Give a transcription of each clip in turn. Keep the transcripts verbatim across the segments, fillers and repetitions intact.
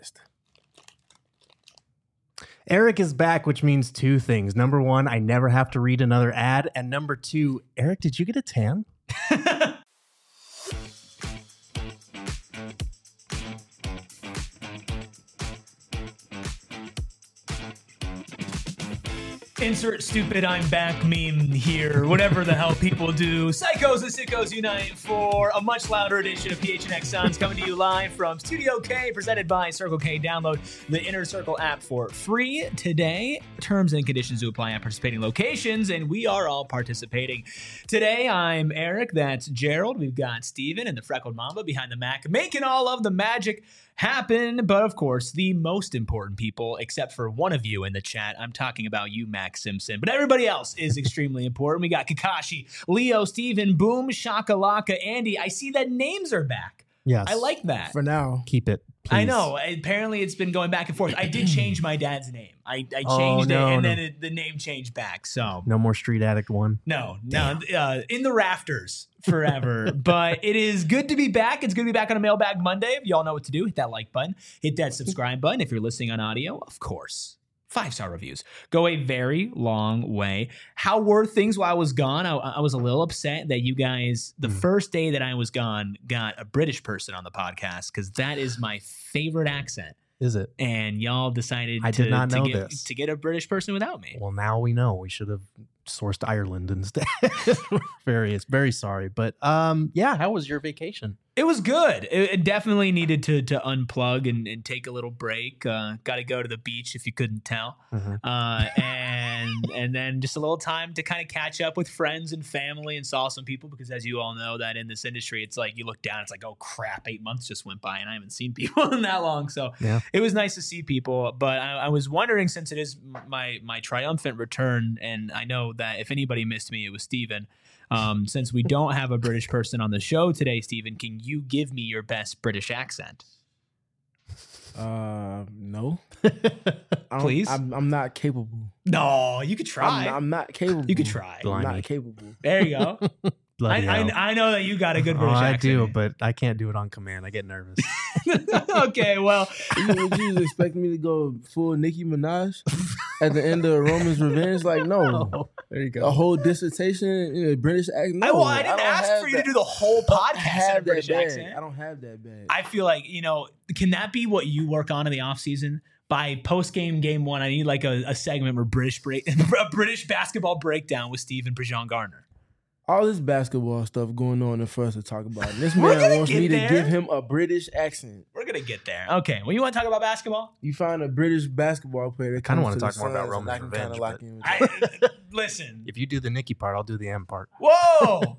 exist. Eric is back, which means two things. Number one, I never have to read another ad. And number two, Eric, did you get a tan? Insert stupid I'm back meme here, whatever the hell people do. Psychos and sickos unite for a much louder edition of P H N X Suns coming to you live from Studio K, presented by Circle K. Download the Inner Circle app for free today. Terms and conditions to apply at participating locations, and we are all participating. Today, I'm Eric, that's Gerald. We've got Steven and the Freckled Mamba behind the Mac, making all of the magic happen. But of course, the most important people, except for one of you in the chat, I'm talking about you, Max Simpson, but everybody else is extremely important. We got Kakashi, Leo, Steven, Boom, Shakalaka, Andy. I see that names are back. Yes. I like that. For now. Keep it, please. I know. Apparently, it's been going back and forth. I did change my dad's name. I, I changed Oh, no, it, and no. then it, the name changed back. So No more Street Addict one. no, no, uh, in the rafters forever. But it is good to be back. It's good to be back on a Mailbag Monday. Y'all know what to do. Hit that like button. Hit that subscribe button if you're listening on audio. Of course. Five-star reviews go a very long way. How were things while I was gone? I, I was a little upset that you guys, the Mm. first day that I was gone, got a British person on the podcast because that is my favorite accent. Is it? And y'all decided I to, did not to know get, this. to get a British person without me. Well, now we know. We should have sourced Ireland instead. very, very sorry. But um, yeah, how was your vacation? It was good. It, it definitely needed to to unplug and, and take a little break. Uh, Got to go to the beach if you couldn't tell, Mhm. uh, and and then just a little time to kind of catch up with friends and family and saw some people because, as you all know, that in this industry, it's like you look down, it's like, oh crap, eight months just went by and I haven't seen people in that long. So Yeah. it was nice to see people. But I, I was wondering, since it is my my triumphant return, and I know that if anybody missed me, it was Steven. Um, since we don't have a British person on the show today, Steven, can you give me your best British accent? Uh, no. I don't- Please? I'm, I'm not capable. No, you could I'm, try. I'm not capable. You could try. I'm Blimey. not capable. There you go. I, Bloody hell. I, I know that you got a good Oh, British I accent. do, but I can't do it on command. I get nervous. Okay, well, You- Would you expect me to go full Nicki Minaj at the end of Roman's Revenge? Like, no. Oh, there you A go. whole dissertation in a British accent? No, I, well, I didn't don't ask have for you that. to do the whole I don't podcast in a have that British bad. accent. I don't have that bad. I feel like, you know, can that be what you work on in the off season? By post game game one, I need like a, a segment where British break, a British basketball breakdown with Steve and Prejean Gardner. All this basketball stuff going on and for us to talk about. And this We're man gonna wants get me there. to give him a British accent. We're gonna get there. Okay, well, you want to talk about basketball? You find a British basketball player that Kinda comes wanna to talk the more about Suns, Roman's and I can kinda Revenge, lock but- in with that. I, listen. If you do the Nikki part, I'll do the M part. Whoa.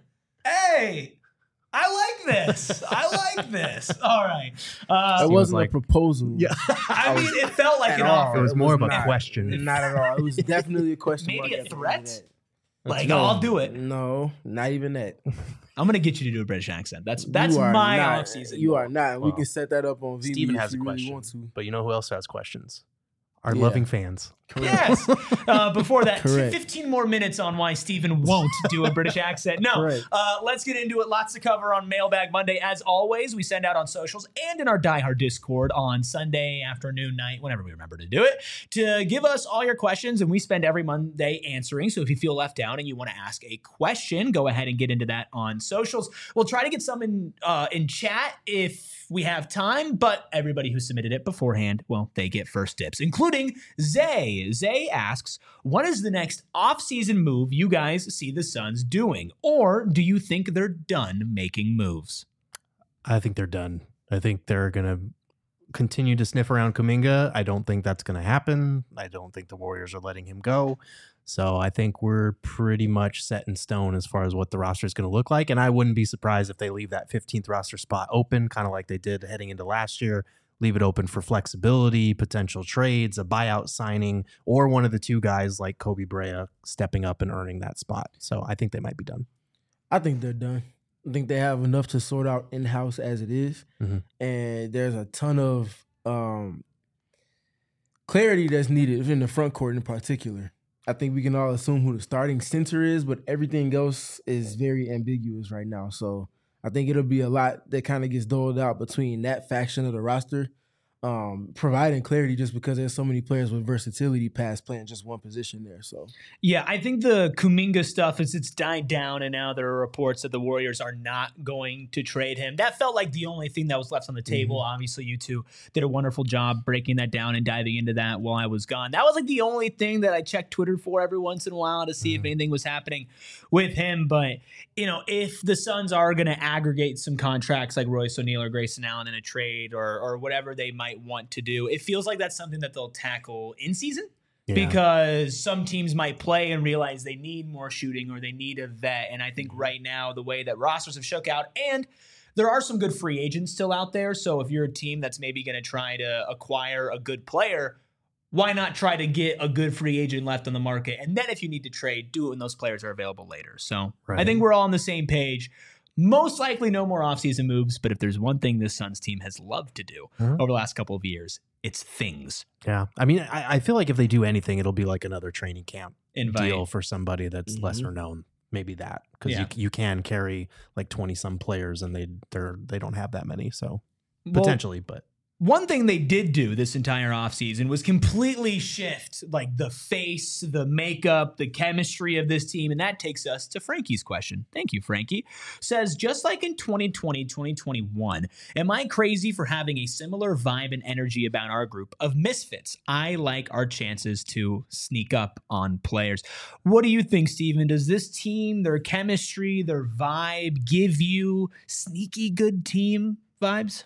Hey, I like this. I like this. All right. Uh, It Seems wasn't like- a proposal. Yeah. I mean, it felt like At an all. offer. It was more of a not. question. Not at all. It was definitely a question. Maybe mark a at the end of threat? that. Like, No. I'll do it. No, not even that. I'm gonna get you to do a British accent. That's that's You are my not- off season. You are not. We Well, can set that up on V B Steven if has a you really question. want to. But you know who else has questions? Our Yeah. loving fans. Yes. Uh, before that, Correct. fifteen more minutes on why Steven won't do a British accent. No. Correct. Uh, let's get into it. Lots to cover on Mailbag Monday. As always, we send out on socials and in our diehard Discord on Sunday afternoon, night, whenever we remember to do it, to give us all your questions. And we spend every Monday answering. So if you feel left out and you want to ask a question, go ahead and get into that on socials. We'll try to get some in, uh, in chat if we have time, but everybody who submitted it beforehand, well, they get first dibs, including Zay. Zay asks, what is the next off-season move you guys see the Suns doing? Or do you think they're done making moves? I think they're done. I think they're going to continue to sniff around Kuminga. I don't think that's going to happen. I don't think the Warriors are letting him go. So I think we're pretty much set in stone as far as what the roster is going to look like. And I wouldn't be surprised if they leave that fifteenth roster spot open, kind of like they did heading into last year. Leave it open for flexibility, potential trades, a buyout signing, or one of the two guys like Kobe Brea stepping up and earning that spot. So I think they might be done. I think they're done. I think they have enough to sort out in-house as it is. Mhm. And there's a ton of um, clarity that's needed in the front court in particular. I think we can all assume who the starting center is, but everything else is very ambiguous right now. So I think it'll be a lot that kind of gets doled out between that faction of the roster. um, providing clarity just because there's so many players with versatility past playing just one position there. So yeah, I think the Kuminga stuff is it's died down, and now there are reports that the Warriors are not going to trade him. That felt like the only thing that was left on the table. Mm-hmm. Obviously, you two did a wonderful job breaking that down and diving into that while I was gone. That was like the only thing that I checked Twitter for every once in a while to see mm-hmm. if anything was happening with him. But, you know, if the Suns are going to aggregate some contracts like Royce O'Neal or Grayson Allen in a trade or or whatever they might want to do, it feels like that's something that they'll tackle in season. Yeah. Because some teams might play and realize they need more shooting or they need a vet. And I think right now, the way that rosters have shook out, and there are some good free agents still out there. So if you're a team that's maybe going to try to acquire a good player, why not try to get a good free agent left on the market? And then if you need to trade, do it when those players are available later. So right. I think we're all on the same page. Most likely no more offseason moves, but if there's one thing this Suns team has loved to do mm-hmm. over the last couple of years, it's things. Yeah. I mean, I, I feel like if they do anything, it'll be like another training camp Invite. deal for somebody that's mm-hmm. lesser known. Maybe that, because yeah. you you can carry like twenty some players and they they're they don't have that many. So well, potentially, but. One thing they did do this entire offseason was completely shift like the face, the makeup, the chemistry of this team. And that takes us to Frankie's question. Thank you, Frankie. Says, just like in twenty twenty, twenty twenty-one, am I crazy for having a similar vibe and energy about our group of misfits? I like our chances to sneak up on players. What do you think, Steven? Does this team, their chemistry, their vibe give you sneaky good team vibes?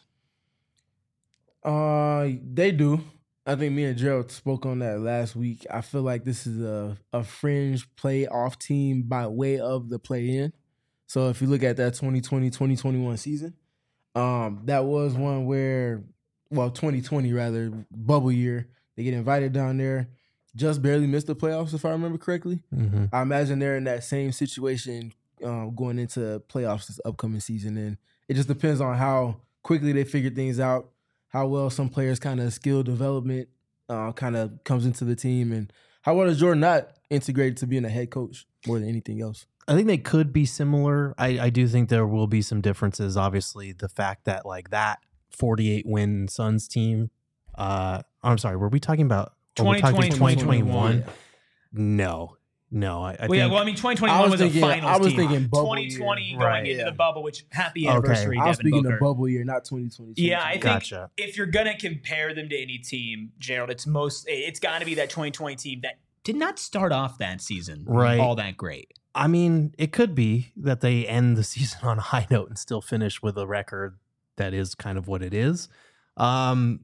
Uh, they do. I think me and Gerald spoke on that last week. I feel like this is a, a fringe playoff team by way of the play-in. So if you look at that twenty twenty, twenty twenty-one season, um, that was one where, well, twenty twenty rather, bubble year, they get invited down there, just barely missed the playoffs if I remember correctly. Mm-hmm. I imagine they're in that same situation um, going into playoffs this upcoming season. And it just depends on how quickly they figure things out, how well some players' kind of skill development uh, kind of comes into the team, and how well is Jordan not integrated to being a head coach more than anything else. I think they could be similar. I, I do think there will be some differences. Obviously, the fact that like that forty-eight win Suns team. Uh, I'm sorry, were we talking about twenty twenty, twenty twenty-one? No. No, I, I well, think... Yeah, well, I mean, twenty twenty-one was, was thinking, a finals I was team. thinking bubble twenty twenty year. going right, into yeah. the bubble, which happy anniversary, okay. I was Devin speaking Booker. of bubble year, not twenty twenty. Yeah, I think gotcha. if you're going to compare them to any team, Gerald, it's most it's got to be that twenty twenty team that did not start off that season right. all that great. I mean, it could be that they end the season on a high note and still finish with a record that is kind of what it is. Um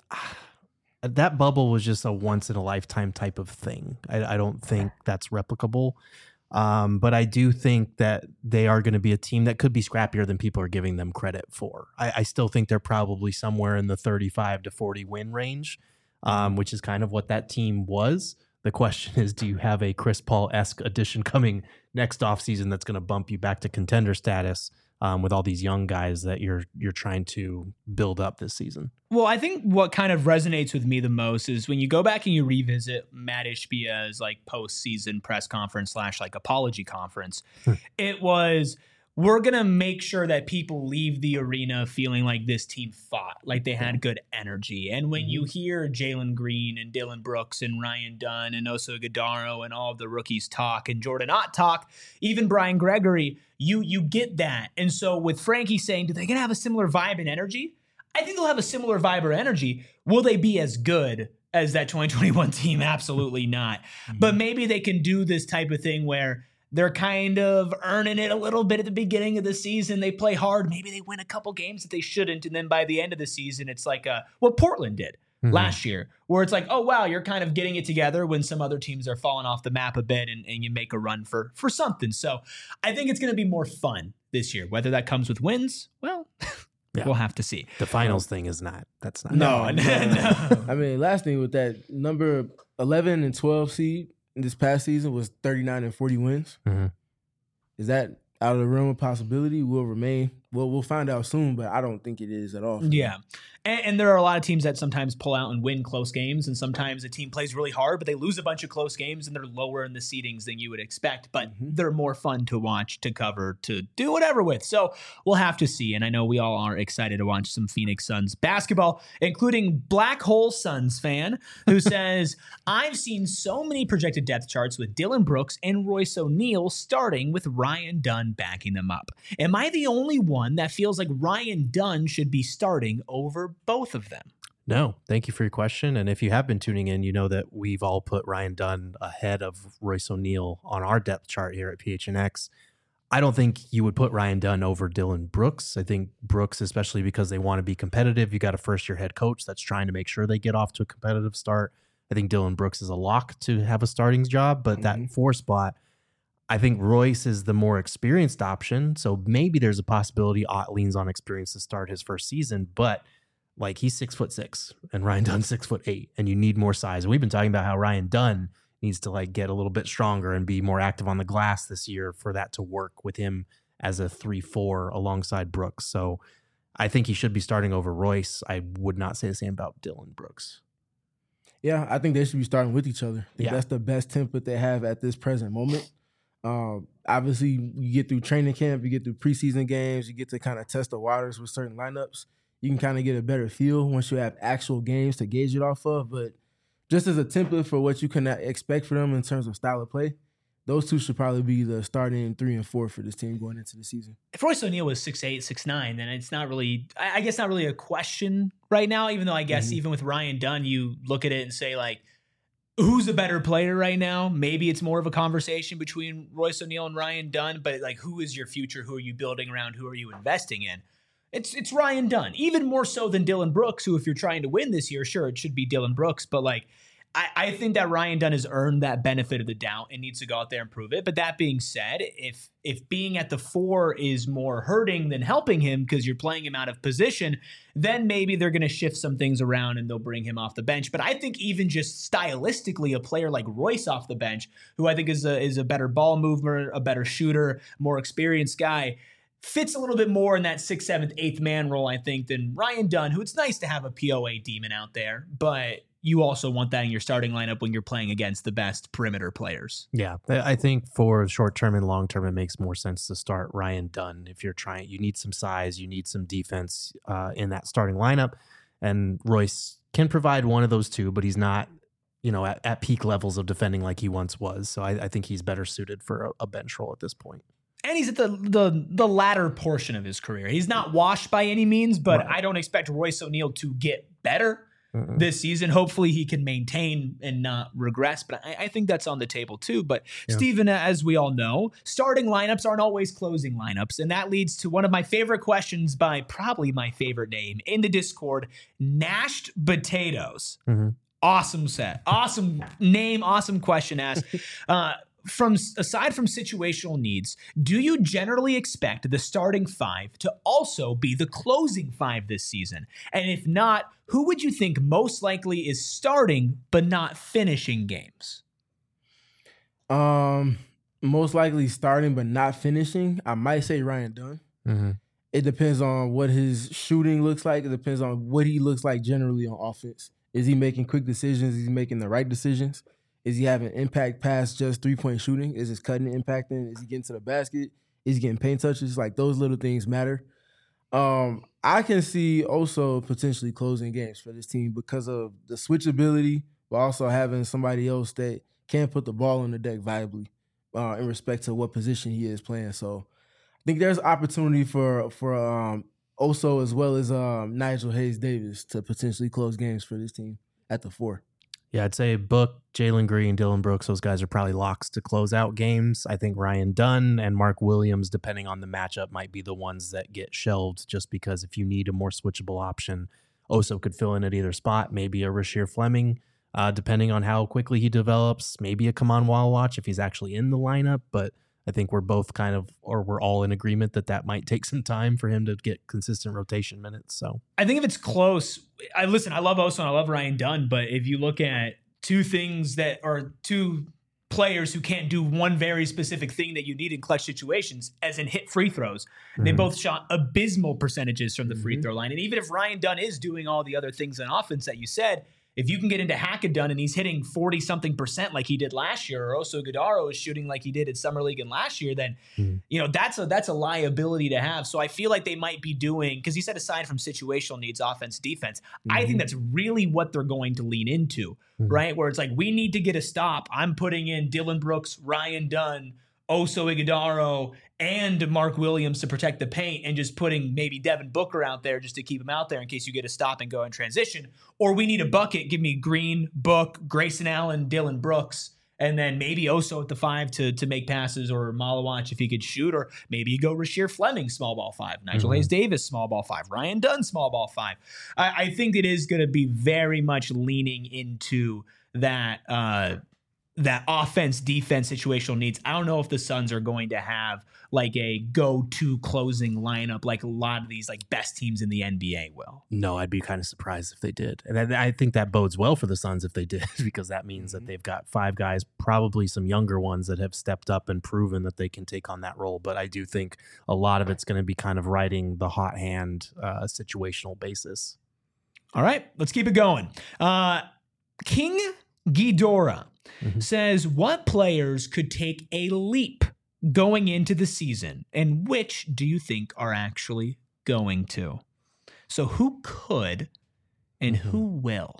That bubble was just a once in a lifetime type of thing. I, I don't think that's replicable. Um, but I do think that they are going to be a team that could be scrappier than people are giving them credit for. I, I still think they're probably somewhere in the thirty-five to forty win range, um, which is kind of what that team was. The question is, do you have a Chris Paul-esque addition coming next offseason that's going to bump you back to contender status? Um, with all these young guys that you're you're trying to build up this season. Well, I think what kind of resonates with me the most is when you go back and you revisit Matt Ishbia's like postseason press conference slash like apology conference. It was, we're going to make sure that people leave the arena feeling like this team fought, like they had good energy. And when mm-hmm. you hear Jalen Green and Dylan Brooks and Ryan Dunn and Oso Ighodaro and all of the rookies talk and Jordan Ott talk, even Brian Gregory, you you get that. And so with Frankie saying, do they going to have a similar vibe and energy? I think they'll have a similar vibe or energy. Will they be as good as that twenty twenty-one team? Absolutely not. Mm-hmm. But maybe they can do this type of thing where they're kind of earning it a little bit at the beginning of the season. They play hard. Maybe they win a couple games that they shouldn't. And then by the end of the season, it's like a, what Portland did mm-hmm. last year, where it's like, oh, wow, you're kind of getting it together when some other teams are falling off the map a bit and, and you make a run for, for something. So I think it's going to be more fun this year. Whether that comes with wins, well, yeah. we'll have to see. The finals thing is not. That's not. No, no. no. I mean, last thing with that, number eleven and twelve seed this past season was thirty-nine and forty wins. Mm-hmm. Is that out of the realm of possibility? Will remain Well, we'll find out soon, but I don't think it is at all. Yeah. And, and there are a lot of teams that sometimes pull out and win close games, and sometimes a team plays really hard, but they lose a bunch of close games, and they're lower in the seedings than you would expect. But mm-hmm. they're more fun to watch, to cover, to do whatever with. So we'll have to see. And I know we all are excited to watch some Phoenix Suns basketball, including Black Hole Suns fan who says, I've seen so many projected depth charts with Dillon Brooks and Royce O'Neal starting with Ryan Dunn backing them up. Am I the only one that feels like Ryan Dunn should be starting over both of them? No, thank you for your question. And if you have been tuning in, you know that we've all put Ryan Dunn ahead of Royce O'Neal on our depth chart here at P H N X. I don't think you would put Ryan Dunn over Dillon Brooks. I think Brooks, especially because they want to be competitive, you got a first-year head coach that's trying to make sure they get off to a competitive start. I think Dillon Brooks is a lock to have a starting job, but mm-hmm. that four spot, I think Royce is the more experienced option. So maybe there's a possibility Ott leans on experience to start his first season, but like he's six foot six and Ryan Dunn's six foot eight, and you need more size. And we've been talking about how Ryan Dunn needs to like get a little bit stronger and be more active on the glass this year for that to work with him as a three four alongside Brooks. So I think he should be starting over Royce. I would not say the same about Dillon Brooks. Yeah, I think they should be starting with each other. I think yeah. that's the best template they have at this present moment. Um, obviously, you get through training camp, you get through preseason games, you get to kind of test the waters with certain lineups. You can kind of get a better feel once you have actual games to gauge it off of. But just as a template for what you can expect for them in terms of style of play, those two should probably be the starting three and four for this team going into the season. If Royce O'Neal was six eight, six nine, then it's not really, I guess, not really a question right now, even though I guess mm-hmm. even with Ryan Dunn, you look at it and say, like, who's a better player right now? Maybe it's more of a conversation between Royce O'Neal and Ryan Dunn, but like, who is your future? Who are you building around? Who are you investing in? It's it's Ryan Dunn, even more so than Dillon Brooks, who if you're trying to win this year, sure, it should be Dillon Brooks, but like, I, I think that Ryan Dunn has earned that benefit of the doubt and needs to go out there and prove it. But that being said, if if being at the four is more hurting than helping him because you're playing him out of position, then maybe they're going to shift some things around and they'll bring him off the bench. But I think even just stylistically, a player like Royce off the bench, who I think is a, is a better ball mover, a better shooter, more experienced guy, fits a little bit more in that sixth, seventh, eighth man role, I think, than Ryan Dunn, who it's nice to have a P O A demon out there, but you also want that in your starting lineup when you're playing against the best perimeter players. Yeah, I think for short term and long term, it makes more sense to start Ryan Dunn. If you're trying, you need some size, you need some defense uh, in that starting lineup. And Royce can provide one of those two, but he's not, you know, at, at peak levels of defending like he once was. So I, I think he's better suited for a, a bench role at this point. And he's at the, the the latter portion of his career. He's not washed by any means, but right. I don't expect Royce O'Neal to get better Mm-mm. this season. Hopefully he can maintain and not regress, but I, I think that's on the table too. But yeah. Steven, as we all know, starting lineups aren't always closing lineups, and that leads to one of my favorite questions by probably my favorite name in the Discord, Nashed Potatoes. Mm-hmm. Awesome set. Awesome name, awesome question asked. Uh, From aside from situational needs, do you generally expect the starting five to also be the closing five this season? And if not, who would you think most likely is starting but not finishing games? Um, most likely starting but not finishing. I might say Ryan Dunn. Mm-hmm. It depends on what his shooting looks like. It depends on what he looks like generally on offense. Is he making quick decisions? Is he making the right decisions? Is he having impact past just three-point shooting? Is his cutting impacting? Is he getting to the basket? Is he getting paint touches? Like, those little things matter. Um, I can see also potentially closing games for this team because of the switchability, but also having somebody else that can put the ball on the deck viably uh, in respect to what position he is playing. So I think there's opportunity for for um, Oso as well as um, Nigel Hayes-Davis to potentially close games for this team at the four. Yeah, I'd say Book, Jalen Green, Dillon Brooks, those guys are probably locks to close out games. I think Ryan Dunn and Mark Williams, depending on the matchup, might be the ones that get shelved just because if you need a more switchable option, Oso could fill in at either spot, maybe a Rasheer Fleming, uh, depending on how quickly he develops, maybe a Kaman Wallawatch if he's actually in the lineup, but I think we're both kind of, or we're all in agreement that that might take some time for him to get consistent rotation minutes. So I think if it's close, I listen, I love Oso and I love Ryan Dunn, but if you look at two things that are two players who can't do one very specific thing that you need in clutch situations, as in hit free throws. Mm-hmm. They both shot abysmal percentages from the mm-hmm. free throw line. And even if Ryan Dunn is doing all the other things on offense that you said, if you can get into Hackadun and he's hitting forty something percent like he did last year, or Oso Ighodaro is shooting like he did at Summer League and last year, then mm. you know that's a that's a liability to have. So I feel like they might be doing, because he said aside from situational needs, offense, defense, mm-hmm. I think that's really what they're going to lean into, mm-hmm. right? Where it's like, we need to get a stop. I'm putting in Dillon Brooks, Ryan Dunn, Oso Ighodaro, and Mark Williams to protect the paint, and just putting maybe Devin Booker out there just to keep him out there in case you get a stop and go in transition. Or we need a bucket. Give me Green, Book, Grayson Allen, Dillon Brooks, and then maybe Oso at the five to, to make passes, or Malawach if he could shoot, or maybe you go Rasheer Fleming, small ball five, Nigel mm-hmm. Hayes Davis, small ball five, Ryan Dunn, small ball five. I, I think it is going to be very much leaning into that uh, that offense, defense, situational needs. I don't know if the Suns are going to have like a go-to closing lineup like a lot of these like best teams in the N B A will. No, I'd be kind of surprised if they did. And I, I think that bodes well for the Suns if they did, because that means mm-hmm. that they've got five guys, probably some younger ones that have stepped up and proven that they can take on that role. But I do think a lot of it's going to be kind of riding the hot hand uh, situational basis. All right, let's keep it going. Uh, King Ghidorah mm-hmm. says, what players could take a leap going into the season, and which do you think are actually going to? So who could and mm-hmm. who will?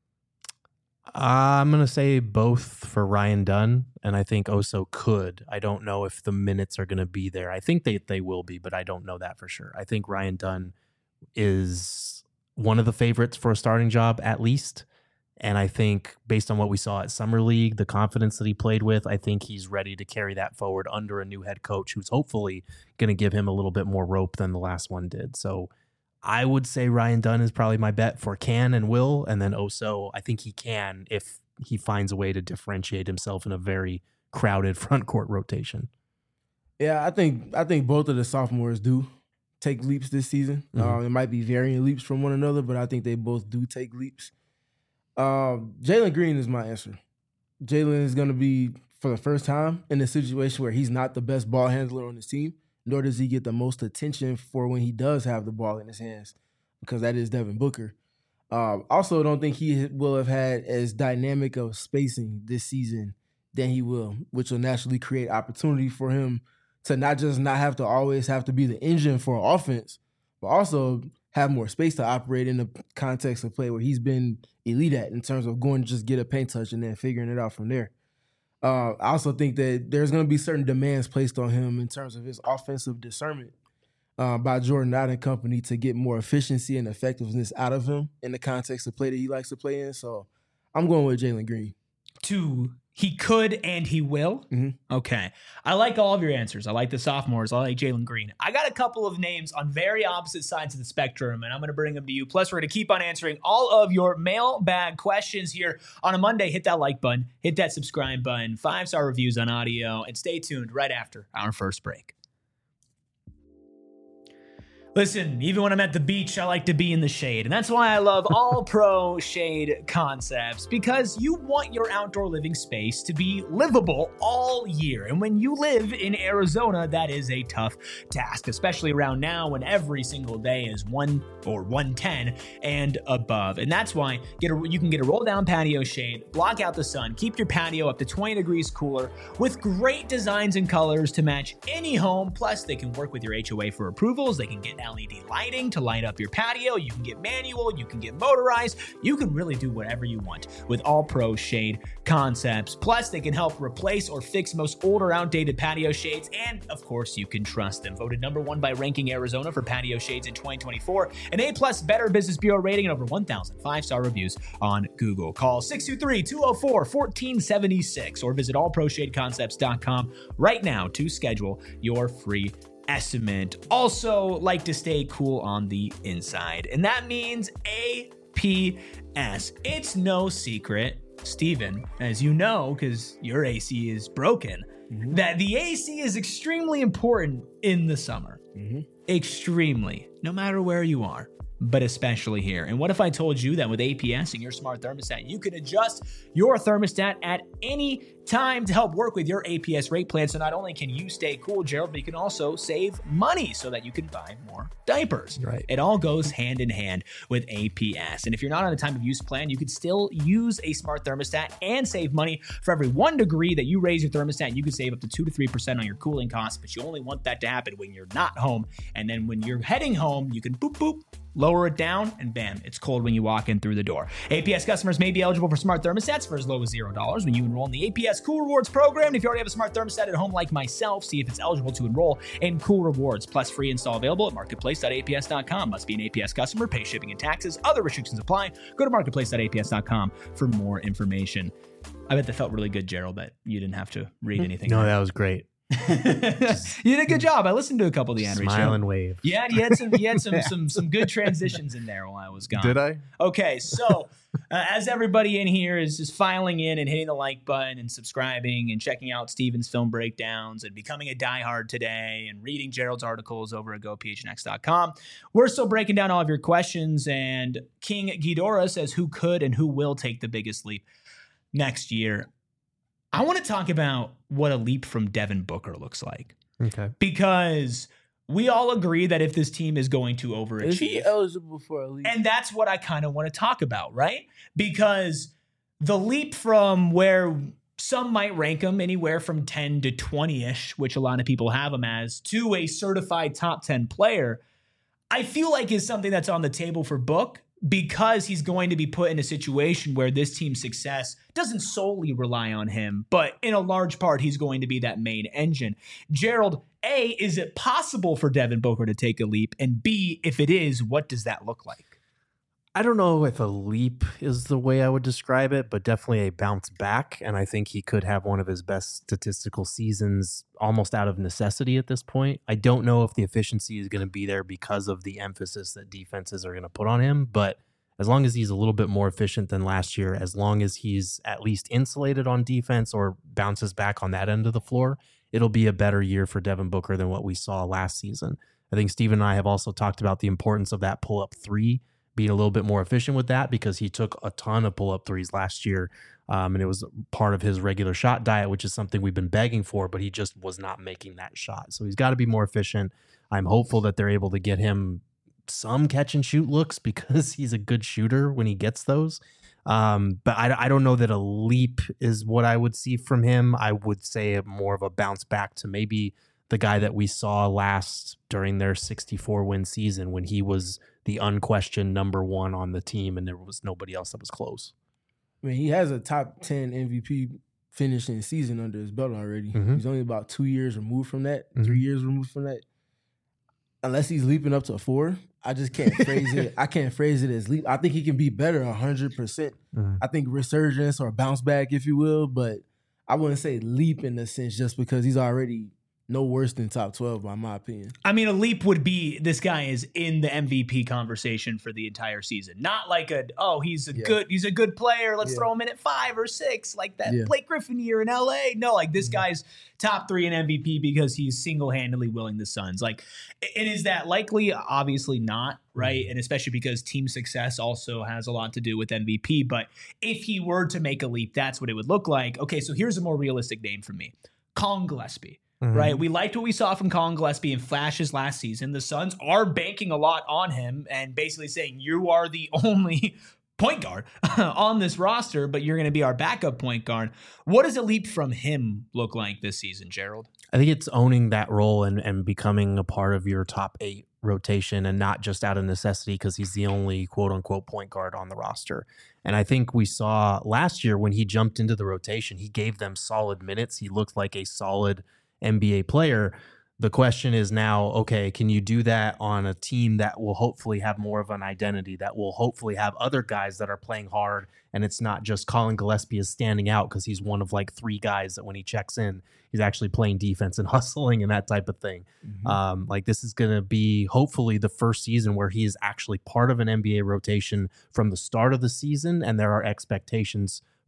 I'm going to say both for Ryan Dunn, and I think Oso could. I don't know if the minutes are going to be there. I think they, they will be, but I don't know that for sure. I think Ryan Dunn is one of the favorites for a starting job, at least. And I think based on what we saw at Summer League, the confidence that he played with, I think he's ready to carry that forward under a new head coach who's hopefully going to give him a little bit more rope than the last one did. So I would say Ryan Dunn is probably my bet for can and will. And then Oso, I think he can if he finds a way to differentiate himself in a very crowded front court rotation. Yeah, I think I think both of the sophomores do take leaps this season. Mm-hmm. Um, it might be varying leaps from one another, but I think they both do take leaps. Um, Jalen Green is my answer. Jalen is going to be, for the first time, in a situation where he's not the best ball handler on his team, nor does he get the most attention for when he does have the ball in his hands, because that is Devin Booker. Um, also, don't think he will have had as dynamic of spacing this season than he will, which will naturally create opportunity for him to not just not have to always have to be the engine for offense, but also have more space to operate in the context of play where he's been elite at in terms of going to just get a paint touch and then figuring it out from there. Uh, I also think that there's going to be certain demands placed on him in terms of his offensive discernment uh, by Jordan Knight and company to get more efficiency and effectiveness out of him in the context of play that he likes to play in. So I'm going with Jalen Green. To he could and he will? Mm-hmm. Okay. I like all of your answers. I like the sophomores. I like Jalen Green. I got a couple of names on very opposite sides of the spectrum, and I'm going to bring them to you. Plus, we're going to keep on answering all of your mailbag questions here on a Monday. Hit that like button. Hit that subscribe button. Five-star reviews on audio. And stay tuned right after our first break. Listen, even when I'm at the beach, I like to be in the shade. And that's why I love All Pro Shade Concepts, because you want your outdoor living space to be livable all year. And when you live in Arizona, that is a tough task, especially around now when every single day is one or one ten and above. And that's why get a, you can get a roll down patio shade, block out the sun, keep your patio up to twenty degrees cooler with great designs and colors to match any home. Plus, they can work with your H O A for approvals. They can get L E D lighting to light up your patio. You can get manual, you can get motorized. You can really do whatever you want with All Pro Shade Concepts. Plus, they can help replace or fix most older, outdated patio shades. And of course, you can trust them. Voted number one by Ranking Arizona for patio shades in twenty twenty-four. An A-plus Better Business Bureau rating and over one thousand five-star reviews on Google. Call six two three, two oh four, one four seven six or visit all pro shade concepts dot com right now to schedule your free estimate. Also, like to stay cool on the inside, and that means A P S. It's no secret, Steven, as you know, because your A C is broken, mm-hmm. that the A C is extremely important in the summer. Mm-hmm. Extremely, no matter where you are. but especially here. And what if I told you that with A P S and your smart thermostat, you can adjust your thermostat at any time to help work with your A P S rate plan. So not only can you stay cool, Gerald, but you can also save money so that you can buy more diapers. Right. It all goes hand in hand with A P S. And if you're not on a time of use plan, you could still use a smart thermostat and save money. For every one degree that you raise your thermostat, you can save up to two to three percent on your cooling costs, but you only want that to happen when you're not home. And then when you're heading home, you can boop, boop, lower it down, and bam, it's cold when you walk in through the door. A P S customers may be eligible for smart thermostats for as low as zero dollars when you enroll in the A P S Cool Rewards program. And if you already have a smart thermostat at home like myself, see if it's eligible to enroll in Cool Rewards. Plus, free install available at marketplace dot A P S dot com. Must be an A P S customer, pay shipping and taxes. Other restrictions apply. Go to marketplace dot A P S dot com for more information. I bet that felt really good, Gerald, that you didn't have to read anything. No, that was great. You did a good job. I listened to a couple of the Henry Smile show. and wave. Yeah, you had some, you had some, some, some good transitions in there while I was gone. Did I? Okay, so uh, as everybody in here is just filing in and hitting the like button and subscribing and checking out Steven's film breakdowns and becoming a diehard today and reading Gerald's articles over at go P H N X dot com, we're still breaking down all of your questions. And King Ghidorah says, who could and who will take the biggest leap next year? I want to talk about what a leap from Devin Booker looks like. Okay. Because we all agree that if this team is going to overachieve. Is he eligible for a leap? And that's what I kind of want to talk about, right? Because the leap from where some might rank him anywhere from ten to twenty-ish, which a lot of people have him as, to a certified top ten player, I feel like is something that's on the table for Book, because he's going to be put in a situation where this team's success doesn't solely rely on him, but in a large part, he's going to be that main engine. Gerald, A, is it possible for Devin Booker to take a leap? And B, if it is, what does that look like? I don't know if a leap is the way I would describe it, but definitely a bounce back. And I think he could have one of his best statistical seasons almost out of necessity at this point. I don't know if the efficiency is going to be there because of the emphasis that defenses are going to put on him. But as long as he's a little bit more efficient than last year, as long as he's at least insulated on defense or bounces back on that end of the floor, it'll be a better year for Devin Booker than what we saw last season. I think Steve and I have also talked about the importance of that pull-up three, being a little bit more efficient with that, because he took a ton of pull-up threes last year, um, and it was part of his regular shot diet, which is something we've been begging for, but he just was not making that shot. So he's got to be more efficient. I'm hopeful that they're able to get him some catch-and-shoot looks because he's a good shooter when he gets those. Um, but I, I don't know that a leap is what I would see from him. I would say more of a bounce back to maybe the guy that we saw last during their sixty-four win season when he was the unquestioned number one on the team and there was nobody else that was close. I mean, he has a top ten M V P finishing season under his belt already. Mm-hmm. He's only about two years removed from that, Mm-hmm. three years removed from that. Unless he's leaping up to four, I just can't phrase it. I can't phrase it as leap. I think he can be better one hundred percent. Mm-hmm. I think resurgence or bounce back, if you will, but I wouldn't say leap in the sense just because he's already no worse than top twelve, by my opinion. I mean, a leap would be this guy is in the M V P conversation for the entire season. Not like a, oh, he's a Yeah. good he's a good player. Let's Yeah. throw him in at five or six, like that Yeah. Blake Griffin year in L A. No, like this Mhm. guy's top three in M V P because he's single-handedly willing the Suns. Like, and is that likely? Obviously not, right? And especially because team success also has a lot to do with M V P. But if he were to make a leap, that's what it would look like. Okay, so here's a more realistic name for me. Colin Gillespie. Mm-hmm. Right. We liked what we saw from Colin Gillespie in flashes last season. The Suns are banking a lot on him and basically saying you are the only point guard on this roster, but you're going to be our backup point guard. What does a leap from him look like this season, Gerald? I think it's owning that role and, and becoming a part of your top eight rotation and not just out of necessity because he's the only quote unquote point guard on the roster. And I think we saw last year when he jumped into the rotation, he gave them solid minutes. He looked like a solid N B A player. The question is now, okay, can you do that on a team that will hopefully have more of an identity, that will hopefully have other guys that are playing hard, and it's not just Colin Gillespie is standing out because he's one of like three guys that when he checks in, he's actually playing defense and hustling and that type of thing. Mm-hmm. Um, like this is going to be hopefully the first season where he is actually part of an N B A rotation from the start of the season, and there are expectations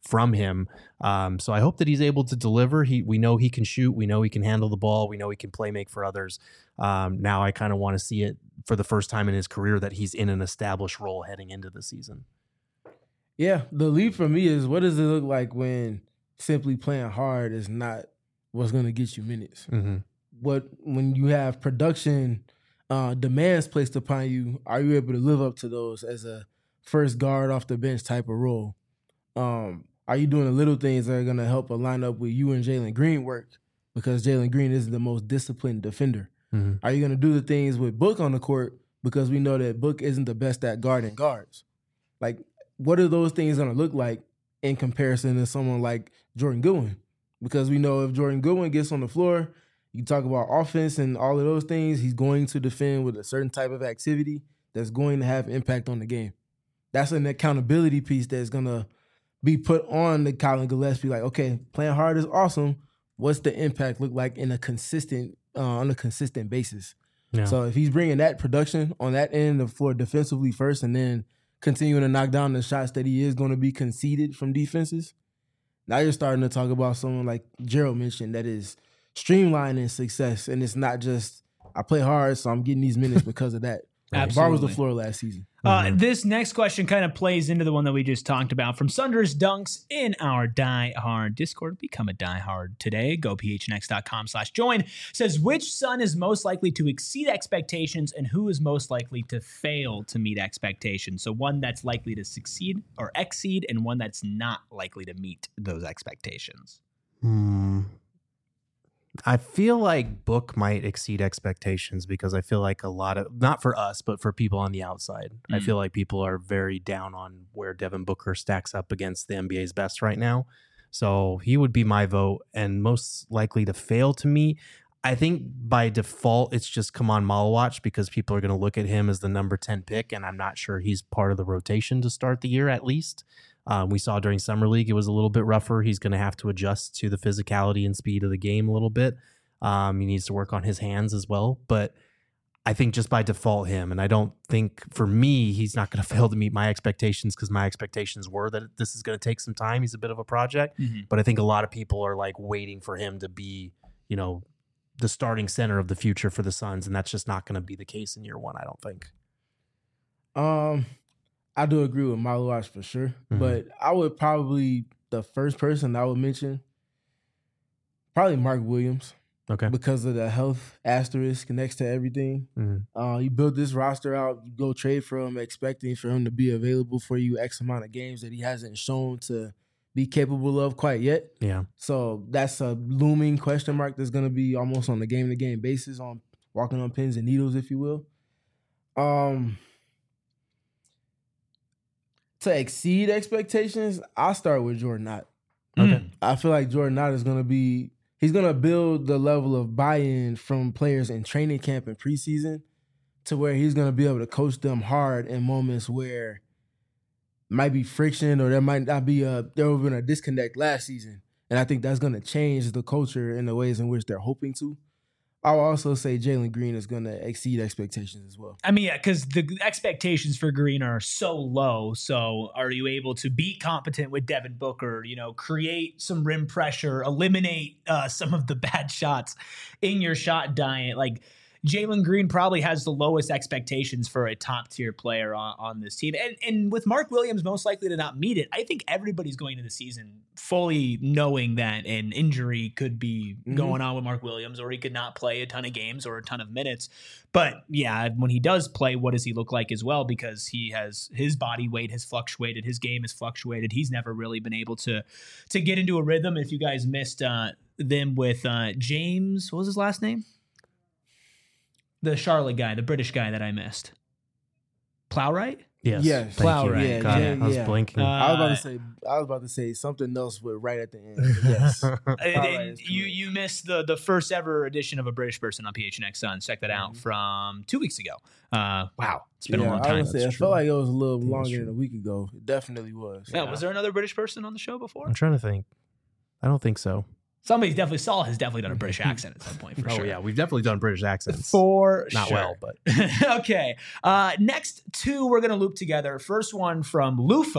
from him. Um, so I hope that he's able to deliver. He, we know he can shoot. We know he can handle the ball. We know he can play make for others. Um, now I kind of want to see it for the first time in his career that he's in an established role heading into the season. Yeah, the leap for me is, what does it look like when simply playing hard is not what's going to get you minutes? Mm-hmm. What when you have production uh, demands placed upon you, are you able to live up to those as a first guard off the bench type of role? Um, are you doing the little things that are going to help line up with you and Jalen Green work? Because Jalen Green is the most disciplined defender. Mm-hmm. Are you going to do the things with Book on the court? Because we know that Book isn't the best at guarding guards. Like, what are those things going to look like in comparison to someone like Jordan Goodwin? Because we know if Jordan Goodwin gets on the floor, you talk about offense and all of those things, he's going to defend with a certain type of activity that's going to have impact on the game. That's an accountability piece that's going to be put on the Colin Gillespie. Like, okay, playing hard is awesome. What's the impact look like in a consistent, uh, on a consistent basis? Yeah. So if he's bringing that production on that end of the floor defensively first, and then continuing to knock down the shots that he is going to be conceded from defenses, now you're starting to talk about someone like Gerald mentioned that is streamlining success, and it's not just I play hard, so I'm getting these minutes because of that. Absolutely. Bar was the floor last season. Uh, Mm-hmm. This next question kind of plays into the one that we just talked about from Sunders Dunks in our Die Hard Discord. Become a Die Hard today. Go phnx.com slash join. Says, which Sun is most likely to exceed expectations and who is most likely to fail to meet expectations? So one that's likely to succeed or exceed and one that's not likely to meet those expectations. Hmm. I feel like Book might exceed expectations because I feel like a lot of, not for us, but for people on the outside, Mm. I feel like people are very down on where Devin Booker stacks up against the N B A's best right now. So he would be my vote, and most likely to fail to me. I think by default, it's just Kaman Malawach because people are going to look at him as the number ten pick, and I'm not sure he's part of the rotation to start the year at least. Um, we saw during Summer League, it was a little bit rougher. He's going to have to adjust to the physicality and speed of the game a little bit. Um, he needs to work on his hands as well. But I think just by default him, and I don't think for me, he's not going to fail to meet my expectations because my expectations were that this is going to take some time. He's a bit of a project. Mm-hmm. But I think a lot of people are like waiting for him to be, you know, the starting center of the future for the Suns. And that's just not going to be the case in year one, I don't think. Um, I do agree with Malawach for sure, Mhm. but I would probably, the first person I would mention, probably Mark Williams, Okay. because of the health asterisk next to everything. Mhm. Uh, you build this roster out, you go trade for him, expecting for him to be available for you X amount of games that he hasn't shown to be capable of quite yet. Yeah. So that's a looming question mark that's going to be almost on a game-to-game basis, on walking on pins and needles, if you will. Um, to exceed expectations, I'll start with Jordan Knott. Okay. I feel like Jordan Knott is going to be, he's going to build the level of buy-in from players in training camp and preseason to where he's going to be able to coach them hard in moments where might be friction or there might not be a, there would have been a disconnect last season. And I think that's going to change the culture in the ways in which they're hoping to. I'll also say Jalen Green is going to exceed expectations as well. I mean, yeah, because the expectations for Green are so low. So are you able to be competent with Devin Booker, you know, create some rim pressure, eliminate uh, some of the bad shots in your shot diet? Like, Jalen Green probably has the lowest expectations for a top tier player on, on this team. And, and with Mark Williams most likely to not meet it, I think everybody's going into the season fully knowing that an injury could be Mhm. going on with Mark Williams, or he could not play a ton of games or a ton of minutes. But yeah, when he does play, what does he look like as well? Because he has, his body weight has fluctuated. His game has fluctuated. He's never really been able to, to get into a rhythm. If you guys missed uh, them with uh, James, what was his last name? The Charlotte guy, the British guy that I missed. Plowright? Yes. Yes. Thank Plow you. right. Yeah, God, yeah, I was yeah. blinking. Uh, I was about to say, I was about to say something else with right at the end. but Yes. And- Plowright and is you correct. you missed the the first ever edition of a British person on P H N X Suns. Check that out Mhm. from two weeks ago. Uh, wow, it's been yeah, a long I time. would say, I That's felt true. like it was a little think that's longer than true. a week ago. It definitely was. Yeah, was there another British person on the show before? I'm trying to think. I don't think so. Somebody's definitely Saul has definitely done a British accent at some point for oh sure. yeah, we've definitely done British accents. For Not sure. well, but Okay. Uh, next two we're going to loop together. First one from Lufa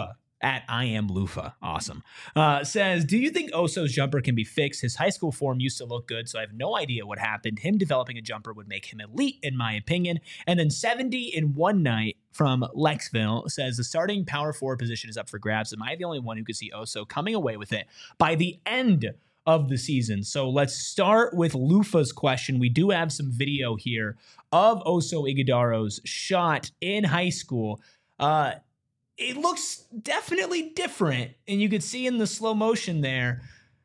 at I am Lufa. Awesome. Uh, says, do you think Oso's jumper can be fixed? His high school form used to look good, so I have no idea what happened. Him developing a jumper would make him elite, in my opinion. And then seventy in one night from Lexville says, the starting power forward position is up for grabs. Am I the only one who could see Oso coming away with it by the end of the season? So let's start with Lufa's question. We do have some video here of Oso Ighodaro's shot in high school. Uh, It looks definitely different, and you could see in the slow motion there.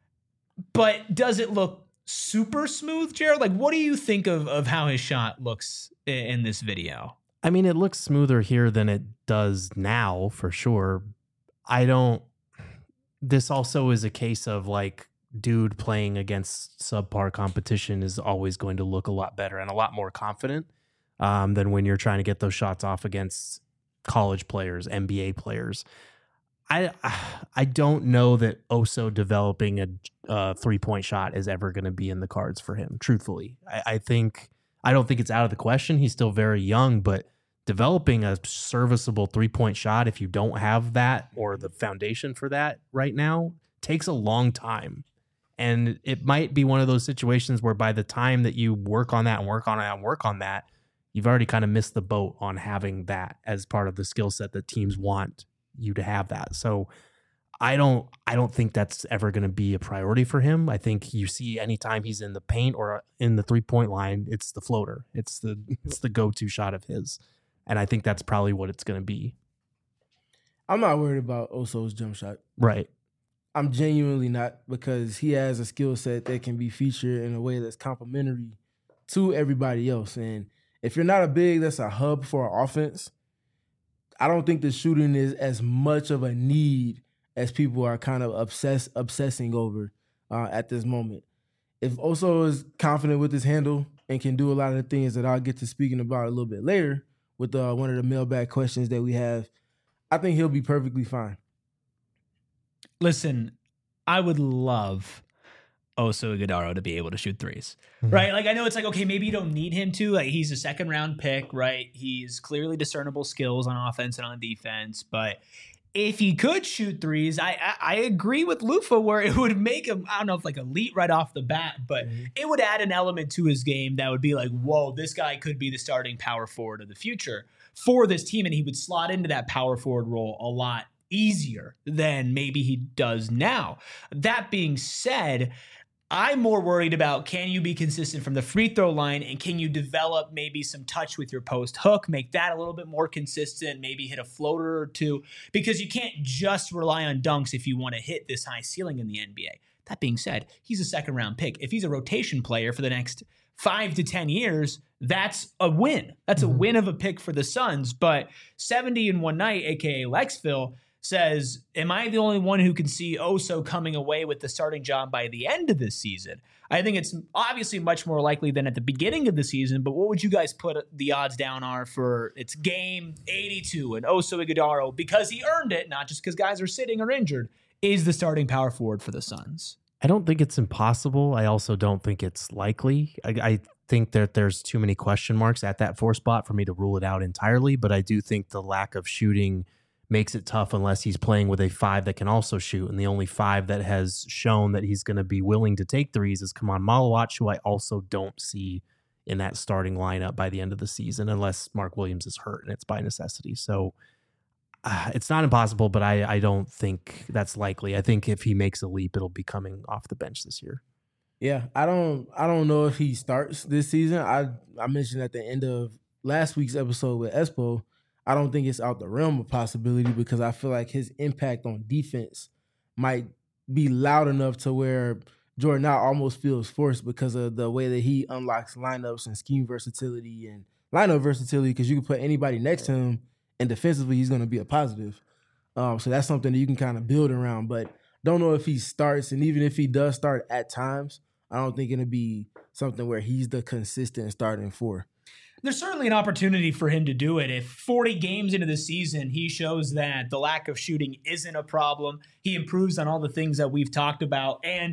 But does it look super smooth, Jared? Like, what do you think of, of how his shot looks in this video? I mean, it looks smoother here than it does now, for sure. I don't... This also is a case of, like, dude playing against subpar competition is always going to look a lot better and a lot more confident um, than when you're trying to get those shots off against college players, N B A players. I I don't know that Oso developing a uh, three-point shot is ever going to be in the cards for him, truthfully. I, I think I don't think it's out of the question. He's still very young, but developing a serviceable three-point shot, if you don't have that or the foundation for that right now, takes a long time. And it might be one of those situations where by the time that you work on that and work on that and work on that, you've already kind of missed the boat on having that as part of the skill set that teams want you to have that. So I don't I don't think that's ever going to be a priority for him. I think you see anytime he's in the paint or in the three-point line, it's the floater. It's the it's the go-to shot of his. And I think that's probably what it's going to be. I'm not worried about Oso's jump shot. Right. I'm genuinely not, because he has a skill set that can be featured in a way that's complementary to everybody else. And if you're not a big that's a hub for an offense, I don't think the shooting is as much of a need as people are kind of obsess, obsessing over uh, at this moment. If Oso is confident with his handle and can do a lot of the things that I'll get to speaking about a little bit later with uh, one of the mailbag questions that we have, I think he'll be perfectly fine. Listen, I would love Oso Ighodaro to be able to shoot threes, Mm-hmm. right? Like, I know it's like, okay, maybe you don't need him to. Like, he's a second round pick, right? He's clearly discernible skills on offense and on defense, but if he could shoot threes, I I, I agree with Lufa where it would make him, I don't know if like elite right off the bat, but mm-hmm. it would add an element to his game that would be like, whoa, this guy could be the starting power forward of the future for this team, and he would slot into that power forward role a lot easier than maybe he does now. That being said, I'm more worried about, can you be consistent from the free throw line, and can you develop maybe some touch with your post hook, make that a little bit more consistent, maybe hit a floater or two, because you can't just rely on dunks if you want to hit this high ceiling in the N B A. That being said, he's a second round pick. If he's a rotation player for the next five to ten years, that's a win. That's a mm-hmm. win of a pick for the Suns. But seventy in one night, aka Lexville, says, am I the only one who can see Oso coming away with the starting job by the end of this season? I think it's obviously much more likely than at the beginning of the season, but what would you guys put the odds down are for it's game eighty-two and Oso Ighodaro, because he earned it, not just because guys are sitting or injured, is the starting power forward for the Suns? I don't think it's impossible. I also don't think it's likely. I, I think that there's too many question marks at that four spot for me to rule it out entirely, but I do think the lack of shooting makes it tough unless he's playing with a five that can also shoot. And the only five that has shown that he's going to be willing to take threes is Kaman Malawach, who I also don't see in that starting lineup by the end of the season, unless Mark Williams is hurt and it's by necessity. So uh, it's not impossible, but I, I don't think that's likely. I think if he makes a leap, it'll be coming off the bench this year. Yeah, I don't I don't know if he starts this season. I, I mentioned at the end of last week's episode with Espo, I don't think it's out the realm of possibility, because I feel like his impact on defense might be loud enough to where Jordan now almost feels forced because of the way that he unlocks lineups and scheme versatility and lineup versatility, because you can put anybody next to him and defensively he's going to be a positive. Um, so that's something that you can kind of build around, but don't know if he starts. And even if he does start at times, I don't think it'll be something where he's the consistent starting four. There's certainly an opportunity for him to do it. If forty games into the season, he shows that the lack of shooting isn't a problem, he improves on all the things that we've talked about, and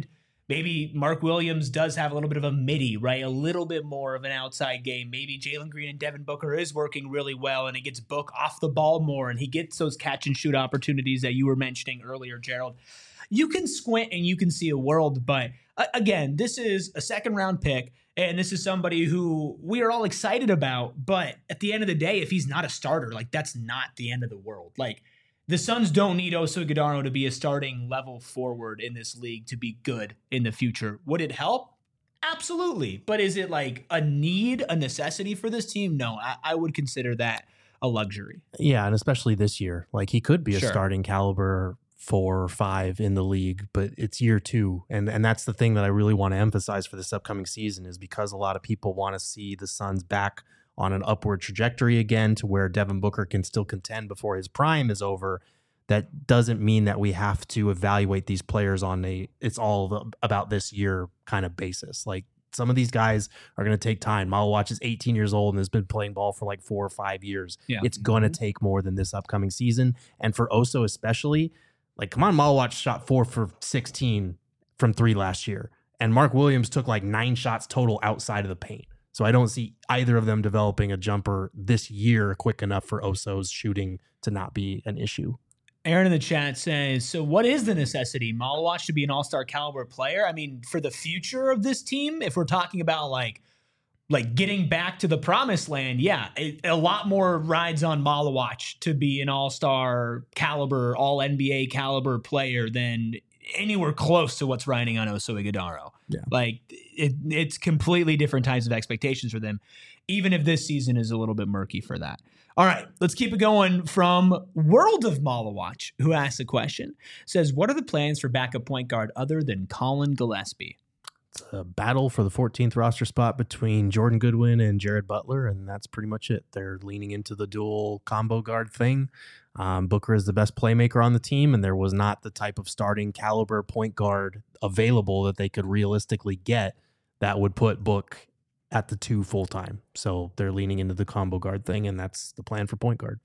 maybe Mark Williams does have a little bit of a midi, right? A little bit more of an outside game. Maybe Jalen Green and Devin Booker is working really well, and it gets Book off the ball more, and he gets those catch and shoot opportunities that you were mentioning earlier, Gerald. You can squint and you can see a world, but uh, again, this is a second round pick, and this is somebody who we are all excited about. But at the end of the day, if he's not a starter, like that's not the end of the world. Like the Suns don't need Oso Ighodaro to be a starting level forward in this league to be good in the future. Would it help? Absolutely. But is it like a need, a necessity for this team? No, I, I would consider that a luxury. Yeah, and especially this year. Like he could be a Sure. starting caliber four or five in the league, but it's year two. And and that's the thing that I really want to emphasize for this upcoming season is because a lot of people want to see the Suns back on an upward trajectory again to where Devin Booker can still contend before his prime is over. That doesn't mean that we have to evaluate these players on a it's all about this year kind of basis. Like some of these guys are going to take time. Malawach is eighteen years old and has been playing ball for like four or five years. Yeah. It's going to take more than this upcoming season. And for Oso especially, like, come on, Malawach shot four for sixteen from three last year. And Mark Williams took like nine shots total outside of the paint. So I don't see either of them developing a jumper this year quick enough for Oso's shooting to not be an issue. Aaron in the chat says, so what is the necessity? Malawach should be an all-star caliber player. I mean, for the future of this team, if we're talking about like, like getting back to the promised land, yeah, it, a lot more rides on Malawach to be an all-star caliber, all N B A caliber player than anywhere close to what's riding on Oso Ighodaro. Yeah. Like it, it's completely different types of expectations for them, even if this season is a little bit murky for that. All right, let's keep it going from World of Malawach, who asked the question, says, what are the plans for backup point guard other than Colin Gillespie? It's a battle for the fourteenth roster spot between Jordan Goodwin and Jared Butler, and that's pretty much it. They're leaning into the dual combo guard thing. Um, Booker is the best playmaker on the team, and there was not the type of starting caliber point guard available that they could realistically get that would put Book at the two full-time. So they're leaning into the combo guard thing, and that's the plan for point guard.